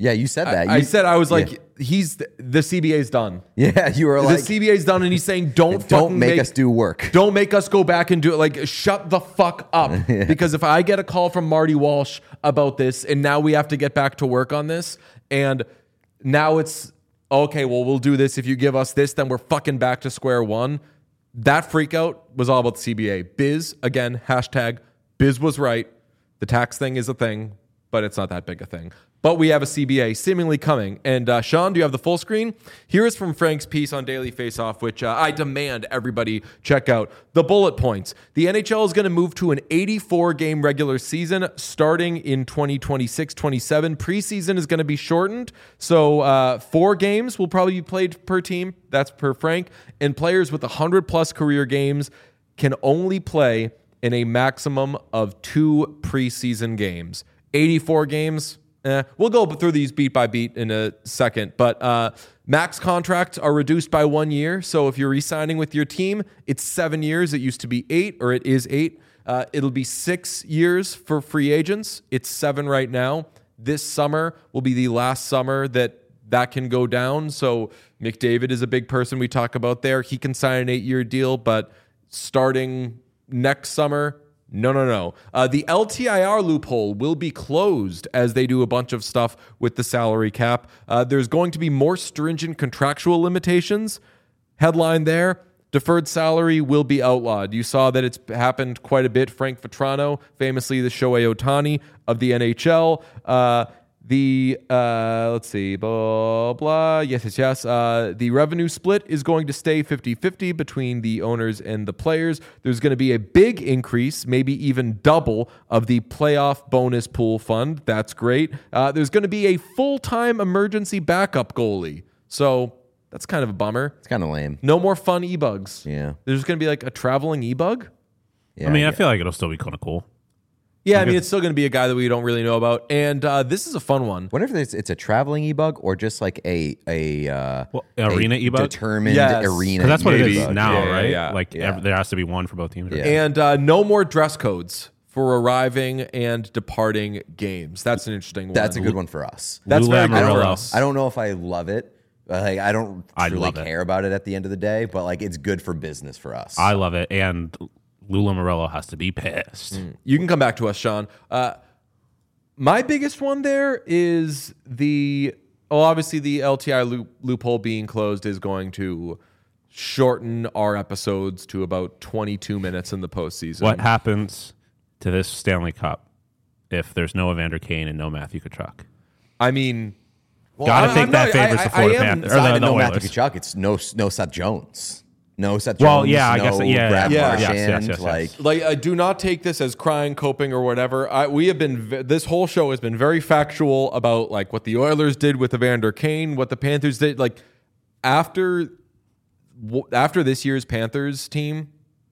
Yeah, you said that. I, I You- said I was like, yeah. he's the, the C B A's done. Yeah, you were The like, C B A's done, and he's saying, don't don't fucking make, us do work. Don't make us go back and do it. Like, shut the fuck up. Because if I get a call from Marty Walsh about this, and now we have to get back to work on this, and now it's, okay, well, we'll do this. If you give us this, then we're fucking back to square one. That freak out was all about the C B A. Biz, again, hashtag, Biz was right. The tax thing is a thing, but it's not that big a thing. But we have a C B A seemingly coming. And uh, Sean, do you have the full screen? Here is from Frank's piece on Daily Faceoff, which uh, I demand everybody check out. The bullet points. The N H L is going to move to an eighty-four game regular season starting in twenty twenty-six twenty-seven. Preseason is going to be shortened. So uh, four games will probably be played per team. That's per Frank. And players with one hundred plus career games can only play in a maximum of two preseason games. eighty-four games. Eh, we'll go through these beat by beat in a second, but uh, max contracts are reduced by one year. So if you're re-signing with your team, it's seven years. It used to be eight, or it is eight. Uh, it'll be six years for free agents. It's seven right now. This summer will be the last summer that that can go down. So McDavid is a big person we talk about there. He can sign an eight-year deal, but starting next summer, No, no, no. Uh, the L T I R loophole will be closed as they do a bunch of stuff with the salary cap. Uh, there's going to be more stringent contractual limitations. Headline there, deferred salary will be outlawed. You saw that it's happened quite a bit. Frank Vetrano, famously the Shohei Ohtani of the N H L. Uh, The, uh, let's see, blah, blah. Yes, yes, yes. Uh, the revenue split is going to stay fifty-fifty between the owners and the players. There's going to be a big increase, maybe even double, of the playoff bonus pool fund. That's great. Uh, there's going to be a full-time emergency backup goalie. So that's kind of a bummer. It's kind of lame. No more fun e-bugs. Yeah. There's going to be like a traveling e-bug. Yeah, I mean, I yeah. feel like it'll still be kind of cool. Yeah, I mean, it's still going to be a guy that we don't really know about. And uh, this is a fun one. Wonder if it's, it's a traveling e-bug or just like a a uh, Well, arena a e-bug? determined Yes. arena. 'Cause that's what it is e-bug. now, Yeah, yeah, right? yeah. Like Yeah. ev- there has to be one for both teams. right? Yeah. And uh, no more dress codes for arriving and departing games. That's an interesting one. That's a good one for us. That's Lou very good for Lamoriello. us. I don't know if I love it. But like, I don't I truly love it. care about it at the end of the day, but like it's good for business for us. I love it. And Lou Lamoriello has to be pissed. You can come back to us, Sean. Uh, my biggest one there is the, well, obviously the L T I loop, loophole being closed is going to shorten our episodes to about twenty-two minutes in the postseason. What happens to this Stanley Cup if there's no Evander Kane and no Matthew Tkachuk? I mean, Gotta I- think I'm that not- favors I- the I Florida am- Panthers. It's Or not the, even the no Oilers. Matthew Tkachuk. It's no no Seth Jones. No Seth Jones. Well, yeah, I no guess- yeah, Brad yeah. Marchand. Yes, yes, yes, yes. Like Like, I do not take this as crying, coping, or whatever. I, we have been, v- this whole show has been very factual about like what the Oilers did with Evander Kane, what the Panthers did. Like after, w- after this year's Panthers team,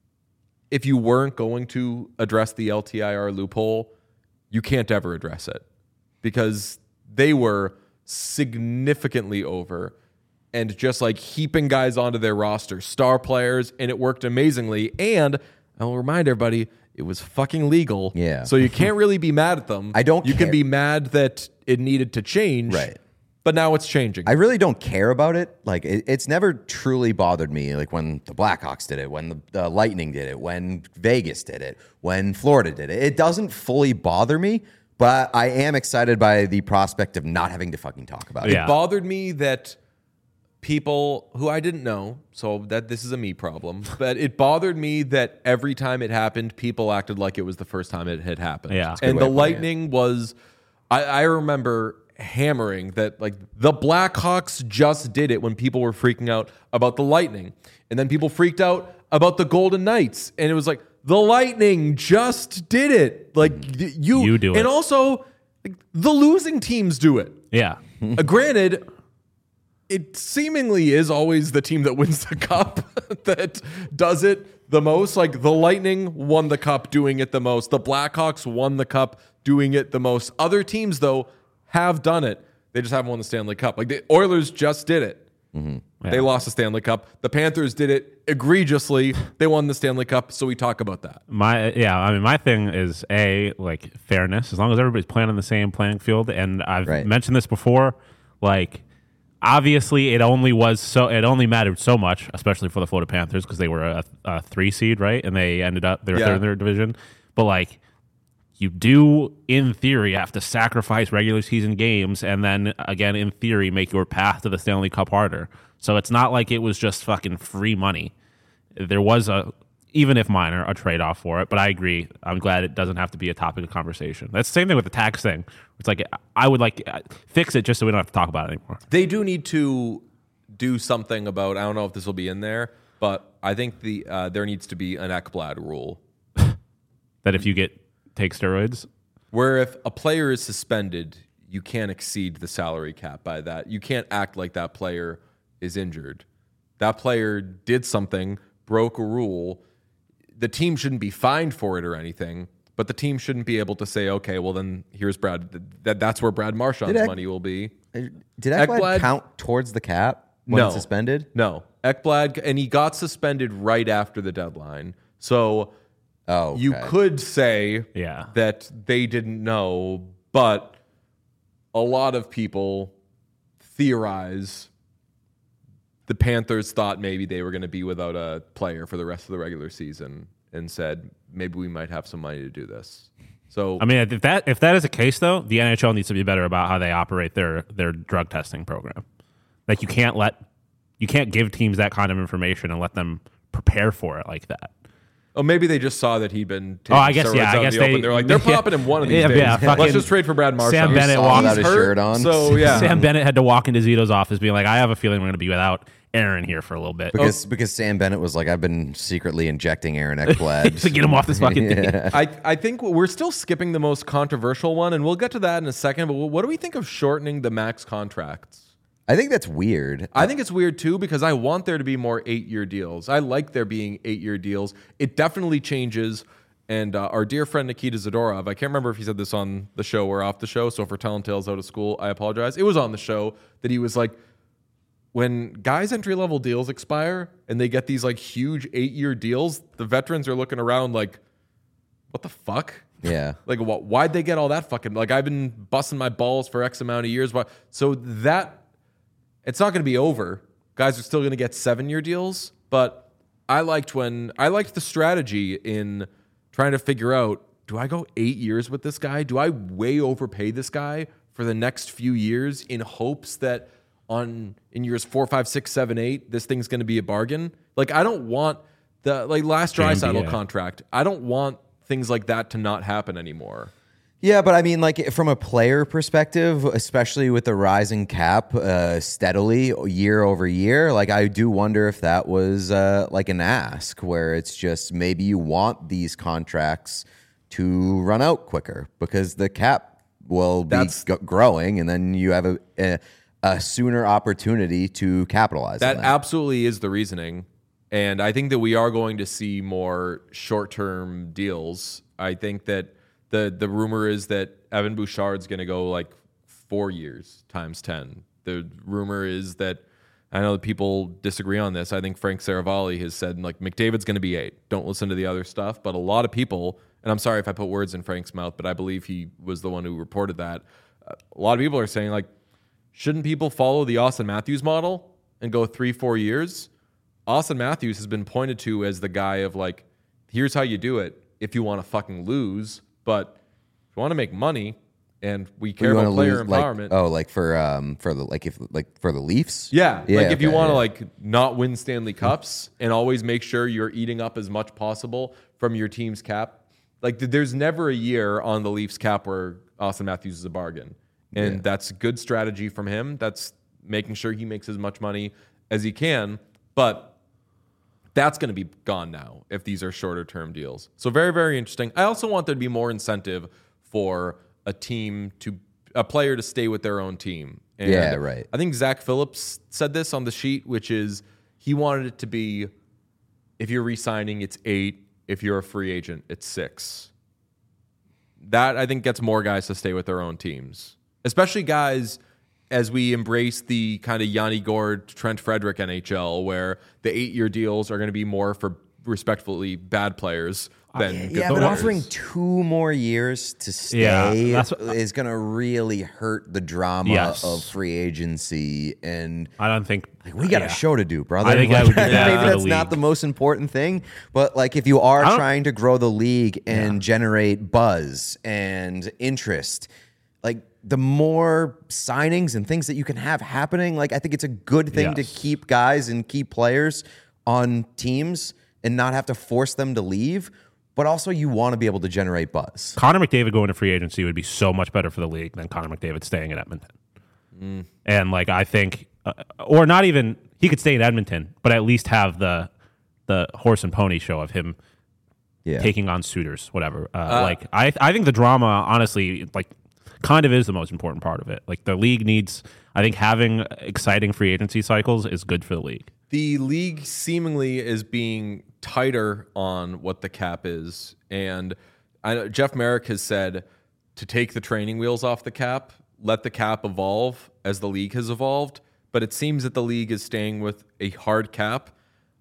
if you weren't going to address the L T I R loophole, you can't ever address it because they were significantly over and just like heaping guys onto their roster, star players, and it worked amazingly. And I will remind everybody, it was fucking legal. Yeah. So you can't really be mad at them. I don't You can care. be mad that it needed to change. Right. But now it's changing. I really don't care about it. Like it, it's never truly bothered me. Like when the Blackhawks did it, when the, the Lightning did it, when Vegas did it, when Florida did it. It doesn't fully bother me, but I am excited by the prospect of not having to fucking talk about it. Yeah. It bothered me that people who I didn't know, so that this is a me problem, but it bothered me that every time it happened, people acted like it was the first time it had happened. Yeah. That's a good And way the of putting it. Lightning was, I, I remember hammering that like the Blackhawks just did it when people were freaking out about the Lightning. And then people freaked out about the Golden Knights. And it was like, the Lightning just did it. Like y- you, You do and it. also like, the losing teams do it. Yeah. Uh, granted, it seemingly is always the team that wins the cup that does it the most. Like the Lightning won the cup doing it the most. The Blackhawks won the cup doing it the most. Other teams, though, have done it. They just haven't won the Stanley Cup. Like the Oilers just did it. They Yeah. lost the Stanley Cup. The Panthers did it egregiously. They won the Stanley Cup, so we talk about that. My yeah, I mean, my thing is a like fairness. As long as everybody's playing on the same playing field, and I've Right. mentioned this before, like obviously it only was so it only mattered so much, especially for the Florida Panthers because they were a, a three seed, right? And they ended up they were Yeah. third in their division. But like you do, in theory, have to sacrifice regular season games, and then again, in theory, make your path to the Stanley Cup harder. So it's not like it was just fucking free money. There was a, even if minor, a trade off for it. But I agree. I'm glad it doesn't have to be a topic of conversation. That's the same thing with the tax thing. It's like I would like fix it just so we don't have to talk about it anymore. They do need to do something about. I don't know if this will be in there, but I think the uh, there needs to be an Ekblad rule That if you get take steroids, where if a player is suspended, you can't exceed the salary cap by that. You can't act like that player is injured. That player did something, broke a rule. The team shouldn't be fined for it or anything, but the team shouldn't be able to say, okay, well then here's Brad. That that's where Brad Marchand's Did Ek- money will be. Did Ekblad Ekblad- count towards the cap when No. suspended? No, Ekblad, and he got suspended right after the deadline. So Oh, you okay. could say Yeah. that they didn't know, but a lot of people theorize the Panthers thought maybe they were going to be without a player for the rest of the regular season and said maybe we might have some money to do this. So I mean, if that if that is the case, though, the N H L needs to be better about how they operate their their drug testing program. Like you can't let you can't give teams that kind of information and let them prepare for it like that. oh, maybe they just saw that he'd been taking Oh, I guess steroids yeah. out I in guess the they open. They're like they're yeah. popping him one of these Yeah, days. yeah, fucking Let's just trade for Brad Marchand. Sam Bennett Saw walked without He's a hurt, shirt on. So yeah, Sam Bennett had to walk into Zito's office being like, I have a feeling we're going to be without Aaron here for a little bit. Because because Sam Bennett was like, I've been secretly injecting Aaron Ekblad to get him off this fucking thing. I, I think we're still skipping the most controversial one, and we'll get to that in a second. But what do we think of shortening the max contracts? I think that's weird. I think it's weird too because I want there to be more eight-year deals. I like there being eight-year deals. It definitely changes. And uh, our dear friend Nikita Zadorov, I can't remember if he said this on the show or off the show. So if we're telling tales out of school, I apologize. It was on the show that he was like, when guys' entry-level deals expire and they get these like huge eight-year deals, the veterans are looking around like, what the fuck? Yeah. Like, wh- why'd they get all that fucking? Like, I've been busting my balls for X amount of years. Why? So that it's not going to be over. Guys are still going to get seven-year deals. But I liked when I liked the strategy in trying to figure out: do I go eight years with this guy? Do I way overpay this guy for the next few years in hopes that on in years four, five, six, seven, eight, this thing's going to be a bargain? Like, I don't want the like last Draisaitl yeah. contract. I don't want things like that to not happen anymore. Yeah, but I mean, like from a player perspective, especially with the rising cap uh, steadily year over year, like I do wonder if that was uh, like an ask where it's just maybe you want these contracts to run out quicker because the cap will be That's- g- growing, and then you have a, a a sooner opportunity to capitalize That on that. absolutely is the reasoning. And I think that we are going to see more short-term deals. I think that the the rumor is that Evan Bouchard's going to go like four years times ten. The rumor is that I know that people disagree on this. I think Frank Saravalli has said like McDavid's going to be eight. Don't listen to the other stuff. But a lot of people, and I'm sorry if I put words in Frank's mouth, but I believe he was the one who reported that. Uh, a lot of people are saying like, shouldn't people follow the Austin Matthews model and go three, four years? Austin Matthews has been pointed to as the guy of like, here's how you do it if you want to fucking lose, but if you want to make money and we care You about wanna player lose, like- empowerment. oh, like for um for the like if like for the Leafs. Yeah, like if you okay, want to yeah. like not win Stanley Cups and always make sure you're eating up as much possible from your team's cap. Like th- there's never a year on the Leafs cap where Austin Matthews is a bargain. And Yeah. that's good strategy from him. That's making sure he makes as much money as he can. But that's going to be gone now if these are shorter term deals. So very, very interesting. I also want there to be more incentive for a team to a player to stay with their own team. And Yeah, right. I think Zach Phillips said this on the sheet, which is he wanted it to be if you're re-signing, it's eight. If you're a free agent, it's six. That I think gets more guys to stay with their own teams, especially guys as we embrace the kind of Yanni Gord, Trent Frederick N H L, where the eight-year deals are going to be more for respectfully bad players than good Yeah, but players. offering two more years to stay Yeah, that's what- is going to really hurt the drama Yes. of free agency. And I don't think we got yeah. a show to do, brother. I think that would be Maybe bad for the that's not league. the most important thing, but like if you are I don't- trying to grow the league and generate buzz and interest, like the more signings and things that you can have happening, like I think it's a good thing to Yes. keep guys and keep players on teams and not have to force them to leave. But also, you want to be able to generate buzz. Connor McDavid going to free agency would be so much better for the league than Connor McDavid staying in Edmonton. Mm. And like I think, uh, or not even he could stay in Edmonton, but at least have the the horse and pony show of him Yeah. taking on suitors, whatever. Uh, like I, I think the drama, honestly, like kind of is the most important part of it. Like the league needs, I think having exciting free agency cycles is good for the league. The league seemingly is being tighter on what the cap is. And I know Jeff Merrick has said to take the training wheels off the cap, let the cap evolve as the league has evolved. But it seems that the league is staying with a hard cap.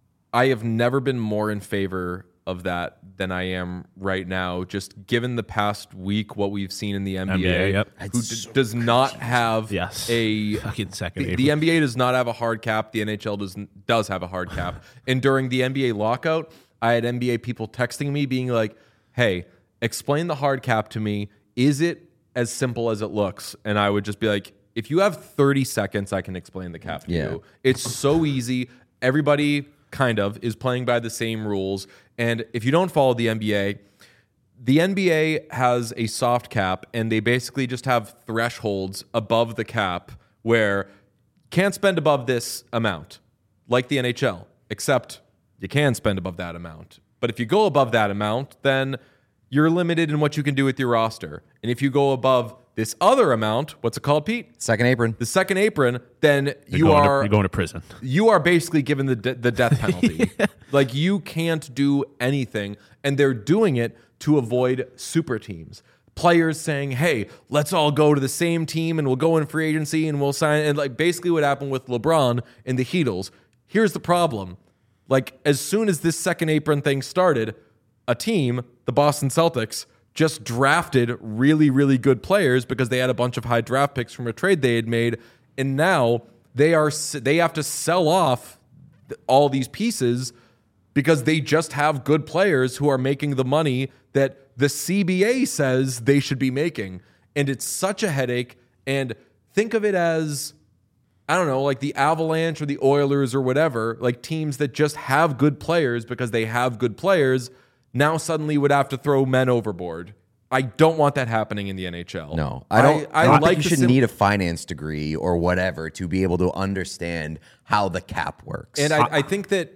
I have never been more in favor of that than I am right now, just given the past week, what we've seen in the N B A, N B A, yep. who d- does not have Yes. a Fucking second the, April. the N B A does not have a hard cap. The N H L does does have a hard cap. And during the N B A lockout, I had N B A people texting me being like, "Hey, explain the hard cap to me. Is it as simple as it looks?" And I would just be like, "If you have thirty seconds, I can explain the cap to Yeah. you. It's so easy. Everybody kind of is playing by the same rules. And if you don't follow the N B A, the N B A has a soft cap, and they basically just have thresholds above the cap where can't spend above this amount, like the N H L, except you can spend above that amount. But if you go above that amount, then you're limited in what you can do with your roster. And if you go above this other amount, what's it called, Pete? Second apron. The second apron, then You're you going are to, you're going to prison. you are basically given the de- the death penalty. Like you can't do anything, and they're doing it to avoid super teams. Players saying, "Hey, let's all go to the same team, and we'll go in free agency, and we'll sign." And like basically what happened with LeBron and the Heatles. Here's the problem: like as soon as this second apron thing started, a team, the Boston Celtics, just drafted really, really good players because they had a bunch of high draft picks from a trade they had made, and now they are they have to sell off all these pieces because they just have good players who are making the money that the C B A says they should be making, and it's such a headache. And think of it as, I don't know, like the Avalanche or the Oilers or whatever, like teams that just have good players because they have good players, now suddenly would have to throw men overboard. I don't want that happening in the N H L. No, I don't. I, I, don't like think you the should sim- need a finance degree or whatever to be able to understand how the cap works. And I, I think that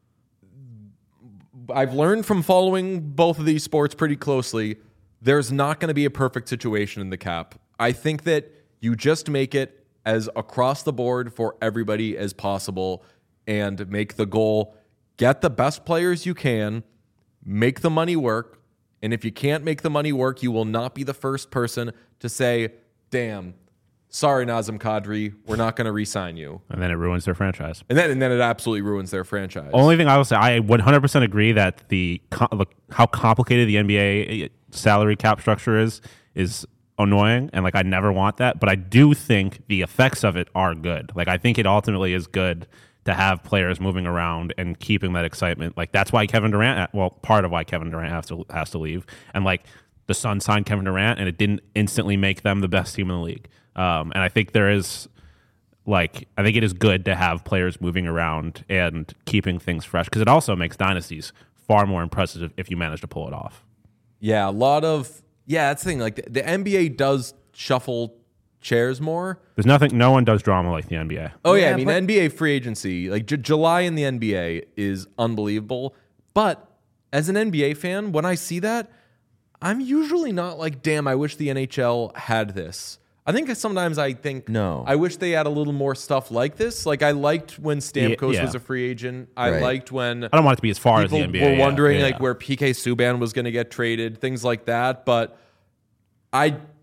I've learned from following both of these sports pretty closely, there's not going to be a perfect situation in the cap. I think that you just make it as across the board for everybody as possible and make the goal, get the best players you can, make the money work. And if you can't make the money work, you will not be the first person to say, damn, sorry, Nazem Kadri, we're not going to re-sign you. And then it ruins their franchise. And then, and then it absolutely ruins their franchise. Only thing I will say, I one hundred percent agree that the co- look, how complicated the N B A salary cap structure is is annoying, and like I never want that. But I do think the effects of it are good. Like I think it ultimately is good to have players moving around and keeping that excitement. Like that's why Kevin Durant, well, part of why Kevin Durant has to has to leave, and like the Suns signed Kevin Durant, and it didn't instantly make them the best team in the league. Um, and I think there is. Like, I think it is good to have players moving around and keeping things fresh because it also makes dynasties far more impressive if you manage to pull it off. Yeah, a lot of yeah. That's the thing. Like the, the N B A does shuffle chairs more. There's nothing, no one does drama like the N B A. Oh yeah, Yeah, I mean but- N B A free agency, like J- July in the N B A is unbelievable. But as an N B A fan, when I see that, I'm usually not like, damn, I wish the N H L had this. I think sometimes I think, No. I wish they had a little more stuff like this. Like I liked when Stamkos yeah. was a free agent. I Right. liked when I don't want it to be as far as the people N B A. were yeah, wondering yeah. like where P K Subban was going to get traded, things like that. But I,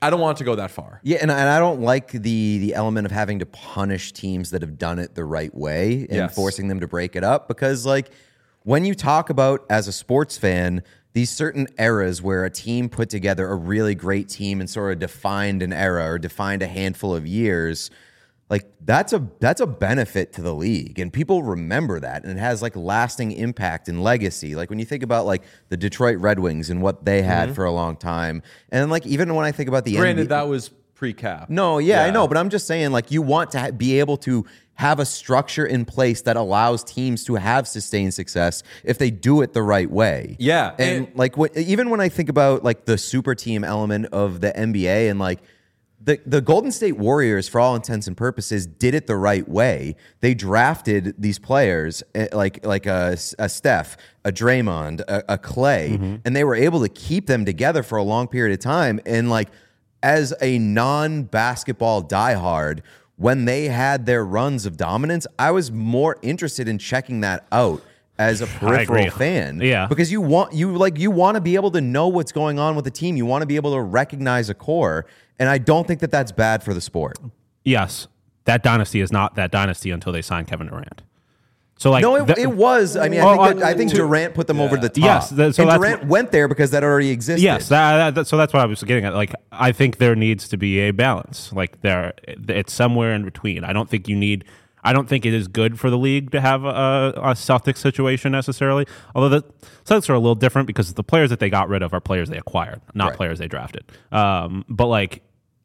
I don't want it to go that far. Yeah, and, and I don't like the the element of having to punish teams that have done it the right way and Yes. forcing them to break it up, because like when you talk about, as a sports fan, these certain eras where a team put together a really great team and sort of defined an era or defined a handful of years, like that's a that's a benefit to the league, and people remember that, and it has like lasting impact and legacy. Like when you think about like the Detroit Red Wings and what they had Mm-hmm. for a long time, and like even when I think about the Granted, N B A, that was pre-cap. no, yeah, I Yeah. know, but I'm just saying, like, you want to ha- be able to have a structure in place that allows teams to have sustained success if they do it the right way. Yeah, and, and- like, what, even when I think about like the super team element of the N B A, and like the the Golden State Warriors, for all intents and purposes, did it the right way. They drafted these players eh, like like a, a Steph, a Draymond, a, a Clay, Mm-hmm. and they were able to keep them together for a long period of time. And like, as a non-basketball diehard, when they had their runs of dominance, I was more interested in checking that out as a peripheral agree. fan. Yeah. Because you want you like you want to be able to know what's going on with the team. You want to be able to recognize a core, and I don't think that that's bad for the sport. Yes, that dynasty is not that dynasty until they sign Kevin Durant. So like, No, it, the- it was. I mean, I Well, think, that, uh, I think to- Durant put them over the top. Yes, that- so and that's Durant what- went there because that already existed. Yes, that, that, so that's what I was getting at. Like, I think there needs to be a balance. Like, there, it's somewhere in between. I don't think you need. I don't think it is good for the league to have a, a Celtics situation necessarily. Although the Celtics are a little different because the players that they got rid of are players they acquired, not Right. players they drafted. Um, but like,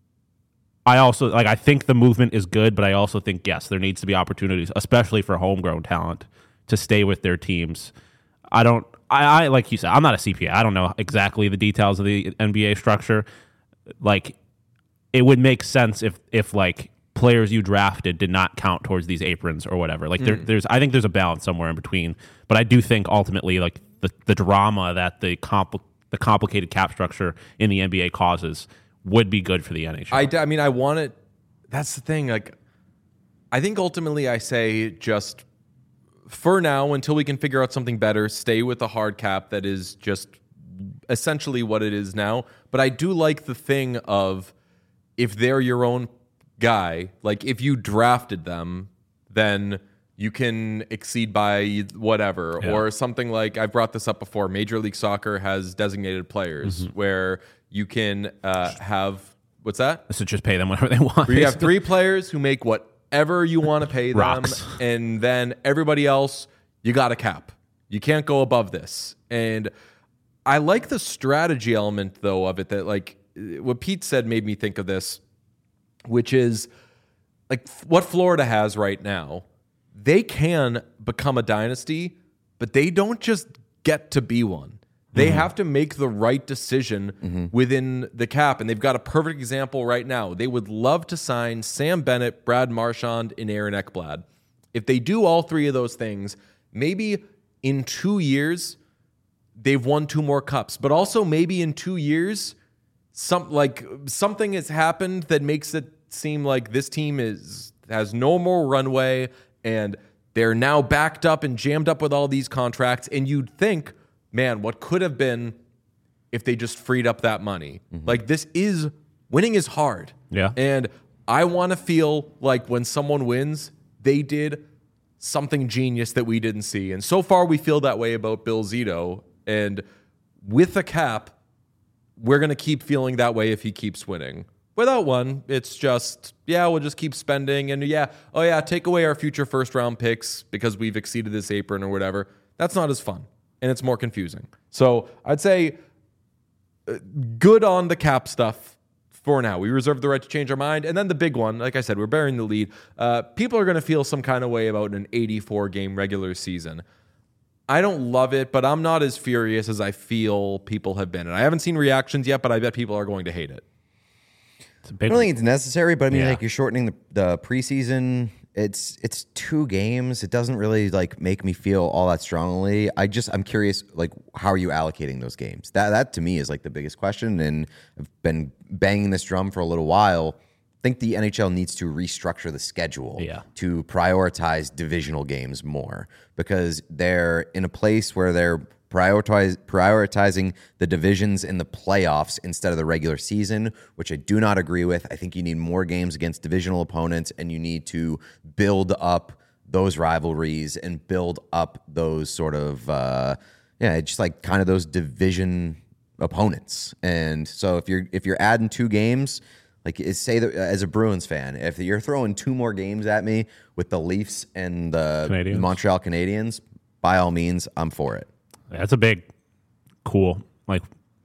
I also like. I think the movement is good, but I also think yes, there needs to be opportunities, especially for homegrown talent, to stay with their teams. I don't, I, I like you said, I'm not a C P A. I don't know exactly the details of the N B A structure. Like, it would make sense if, if like players you drafted did not count towards these aprons or whatever. Like, there, there's, I think there's a balance somewhere in between. But I do think ultimately, like the, the drama that the compl- the complicated cap structure in the N B A causes would be good for the N H L. I, I mean, I want it. That's the thing. Like, I think ultimately I say just for now, until we can figure out something better, stay with the hard cap that is just essentially what it is now. But I do like the thing of if they're your own guy, like if you drafted them, then you can exceed by whatever. Yeah. Or something like, I've brought this up before, Major League Soccer has designated players where you can uh, have, what's that? So just pay them whatever they want. Where you have three players who make whatever you want to pay them, Rocks. and then everybody else, you got a cap. You can't go above this. And I like the strategy element, though, of it, that, like, what Pete said made me think of this, which is, like, what Florida has right now. They can become a dynasty, but they don't just get to be one. They have to make the right decision within the cap, and they've got a perfect example right now. They would love to sign Sam Bennett, Brad Marchand, and Aaron Ekblad. If they do all three of those things, maybe in two years they've won two more cups, but also maybe in two years some like something has happened that makes it seem like this team is has no more runway, and they're now backed up and jammed up with all these contracts, and you'd think, man, what could have been if they just freed up that money? Like, this is, winning is hard. Yeah. And I want to feel like when someone wins, they did something genius that we didn't see. And so far, we feel that way about Bill Zito. And with a cap, we're going to keep feeling that way if he keeps winning. Without one, it's just, yeah, we'll just keep spending. And yeah, oh yeah, take away our future first round picks because we've exceeded this apron or whatever. That's not as fun. And it's more confusing. So I'd say uh, good on the cap stuff for now. We reserve the right to change our mind. And then the big one, like I said, we're bearing the lead. Uh, people are going to feel some kind of way about an eighty-four game regular season. I don't love it, but I'm not as furious as I feel people have been. And I haven't seen reactions yet, but I bet people are going to hate it. It's a I big don't think it's necessary, but I mean, Yeah. like, you're shortening the, the preseason. It's it's two games. It doesn't really like make me feel all that strongly. I just I'm curious, like, how are you allocating those games? That that to me is like the biggest question, and I've been banging this drum for a little while. I think the N H L needs to restructure the schedule Yeah. to prioritize divisional games more, because they're in a place where they're prioritize, prioritizing the divisions in the playoffs instead of the regular season, which I do not agree with. I think you need more games against divisional opponents, and you need to build up those rivalries and build up those sort of, uh, yeah, just like kind of those division opponents. And so if you're if you're adding two games, like say that as a Bruins fan, if you're throwing two more games at me with the Leafs and the Canadians. Montreal Canadiens, by all means, I'm for it. That's a big, cool. Like,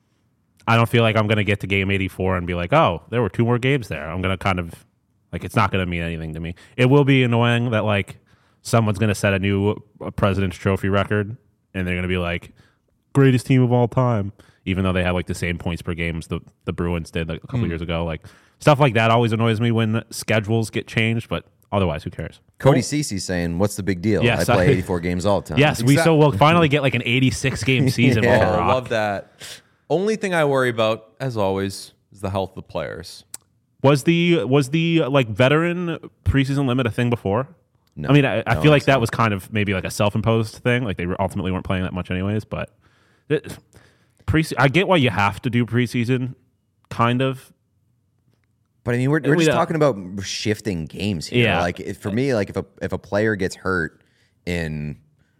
I don't feel like I'm going to get to game eighty-four and be like, oh, there were two more games there. I'm going to kind of, like, it's not going to mean anything to me. It will be annoying that, like, someone's going to set a new President's Trophy record, and they're going to be like, greatest team of all time, even though they have, like, the same points per game as the, the Bruins did like, a couple mm. years ago. Like, stuff like that always annoys me when schedules get changed, but otherwise, who cares? Cody Cece's saying, what's the big deal? Yes, I play I, eighty-four games all the time. Yes, we so we'll finally get like an eighty-six game season. Yeah, I love that. Only thing I worry about, as always, is the health of the players. Was the was the like veteran preseason limit a thing before? No, I mean, I, I no, feel like so. that was kind of maybe like a self-imposed thing. Like they ultimately weren't playing that much anyways. But it, pre I get why you have to do preseason, kind of. But I mean, we're, we're We just don't- talking about shifting games here. Yeah. Like if, for me, like if a if a player gets hurt in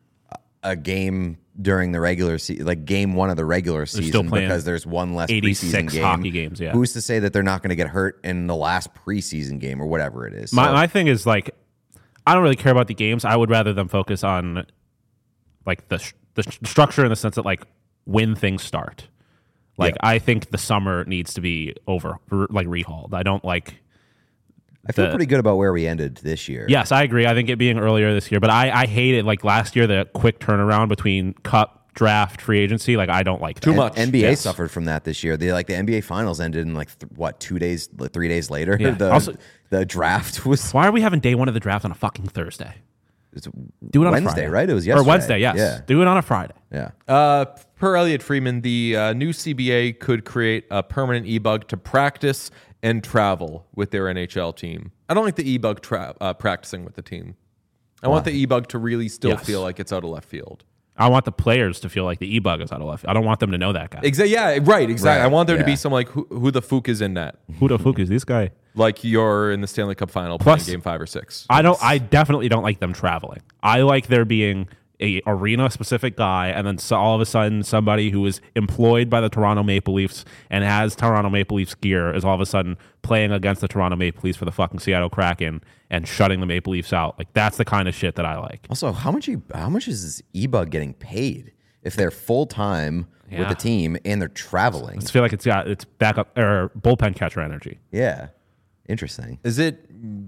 a game during the regular season, like game one of the regular still season, playing because there's one less preseason eighty-six game, hockey games, yeah. who's to say that they're not going to get hurt in the last preseason game or whatever it is? My So- my thing is like, I don't really care about the games. I would rather them focus on like the sh- the sh- structure in the sense that like when things start. Like Yeah. I think the summer needs to be over, r- like rehauled. I don't like. I feel the- pretty good about where we ended this year. Yes, I agree. I think it being earlier this year, but I I hate it. Like last year, the quick turnaround between cup, draft, free agency. Like I don't like that. Too much. N B A Yes. suffered from that this year. They like the N B A finals ended in like th- what two days, like, three days later. Yeah. The Also- the draft was Why are we having day one of the draft on a fucking Thursday? it's Do it on a Wednesday, Friday. right? It was Or yesterday. Wednesday, yes. Yeah, Do it on a Friday. yeah. Uh, per Elliot Freeman, the uh, new C B A could create a permanent e-bug to practice and travel with their N H L team. I don't like the e-bug tra- uh, practicing with the team. I want the e-bug to really still Yes. feel like it's out of left field. I want the players to feel like the e-bug is out of left. I don't want them to know that guy. Exactly. Yeah. Right. Exactly. Right, I want there to be yeah. some like who, who the fuck is in net, Who the fuck is this guy? like you're in the Stanley Cup final Plus- playing game five or six. I don't. I definitely don't like them traveling. I like there being a arena specific guy, and then so all of a sudden somebody who is employed by the Toronto Maple Leafs and has Toronto Maple Leafs gear is all of a sudden playing against the Toronto Maple Leafs for the fucking Seattle Kraken and shutting the Maple Leafs out. Like that's the kind of shit that I like. Also, how much you, how much is this e-bug getting paid if they're full time with Yeah. the team and they're traveling? I feel like it's got it's backup or bullpen catcher energy. Yeah, interesting. Is it?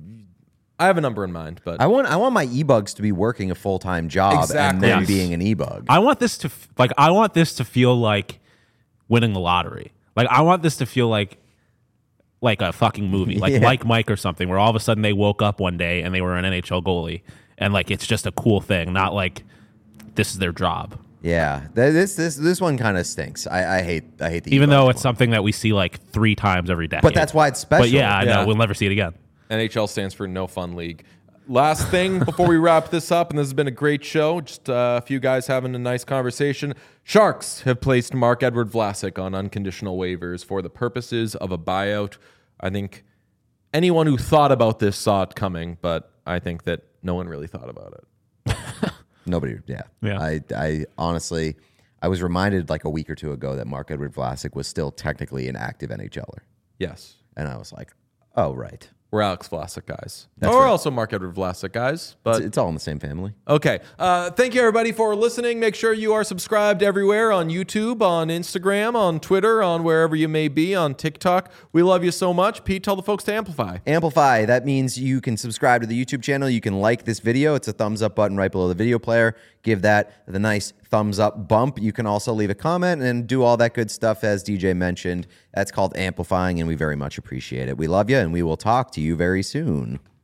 I have a number in mind, but I want I want my e-bugs to be working a full time job and Exactly. then Yes. being an e-bug. I want this to f- like I want this to feel like winning the lottery. Like I want this to feel like like a fucking movie, like Yeah. Like Mike or something, where all of a sudden they woke up one day and they were an N H L goalie, and like it's just a cool thing, not like this is their job. Yeah, Th- this this this one kind of stinks. I, I hate I hate the Even e-bug though one. it's something that we see like three times every decade. But that's why it's special. But yeah, I Yeah. know we'll never see it again. N H L stands for No Fun League. Last thing before we wrap this up, and this has been a great show, just uh, a few guys having a nice conversation. Sharks have placed Mark-Edward Vlasic on unconditional waivers for the purposes of a buyout. I think anyone who thought about this saw it coming, but I think that no one really thought about it. Nobody. Yeah. Yeah. I I honestly I was reminded like a week or two ago that Mark Edward Vlasic was still technically an active NHLer, Yes. and I was like, oh right, We're Alex Vlasic guys. That's or right. also Mark-Edward Vlasic guys. But it's, it's all in the same family. Okay. Uh, thank you, everybody, for listening. Make sure you are subscribed everywhere on YouTube, on Instagram, on Twitter, on wherever you may be, on TikTok. We love you so much. Pete, tell the folks to amplify. Amplify. That means you can subscribe to the YouTube channel. You can like this video. It's a thumbs up button right below the video player. Give that the nice thumbs up bump. You can also leave a comment and do all that good stuff as D J mentioned. That's called amplifying, and we very much appreciate it. We love you, and we will talk to you very soon.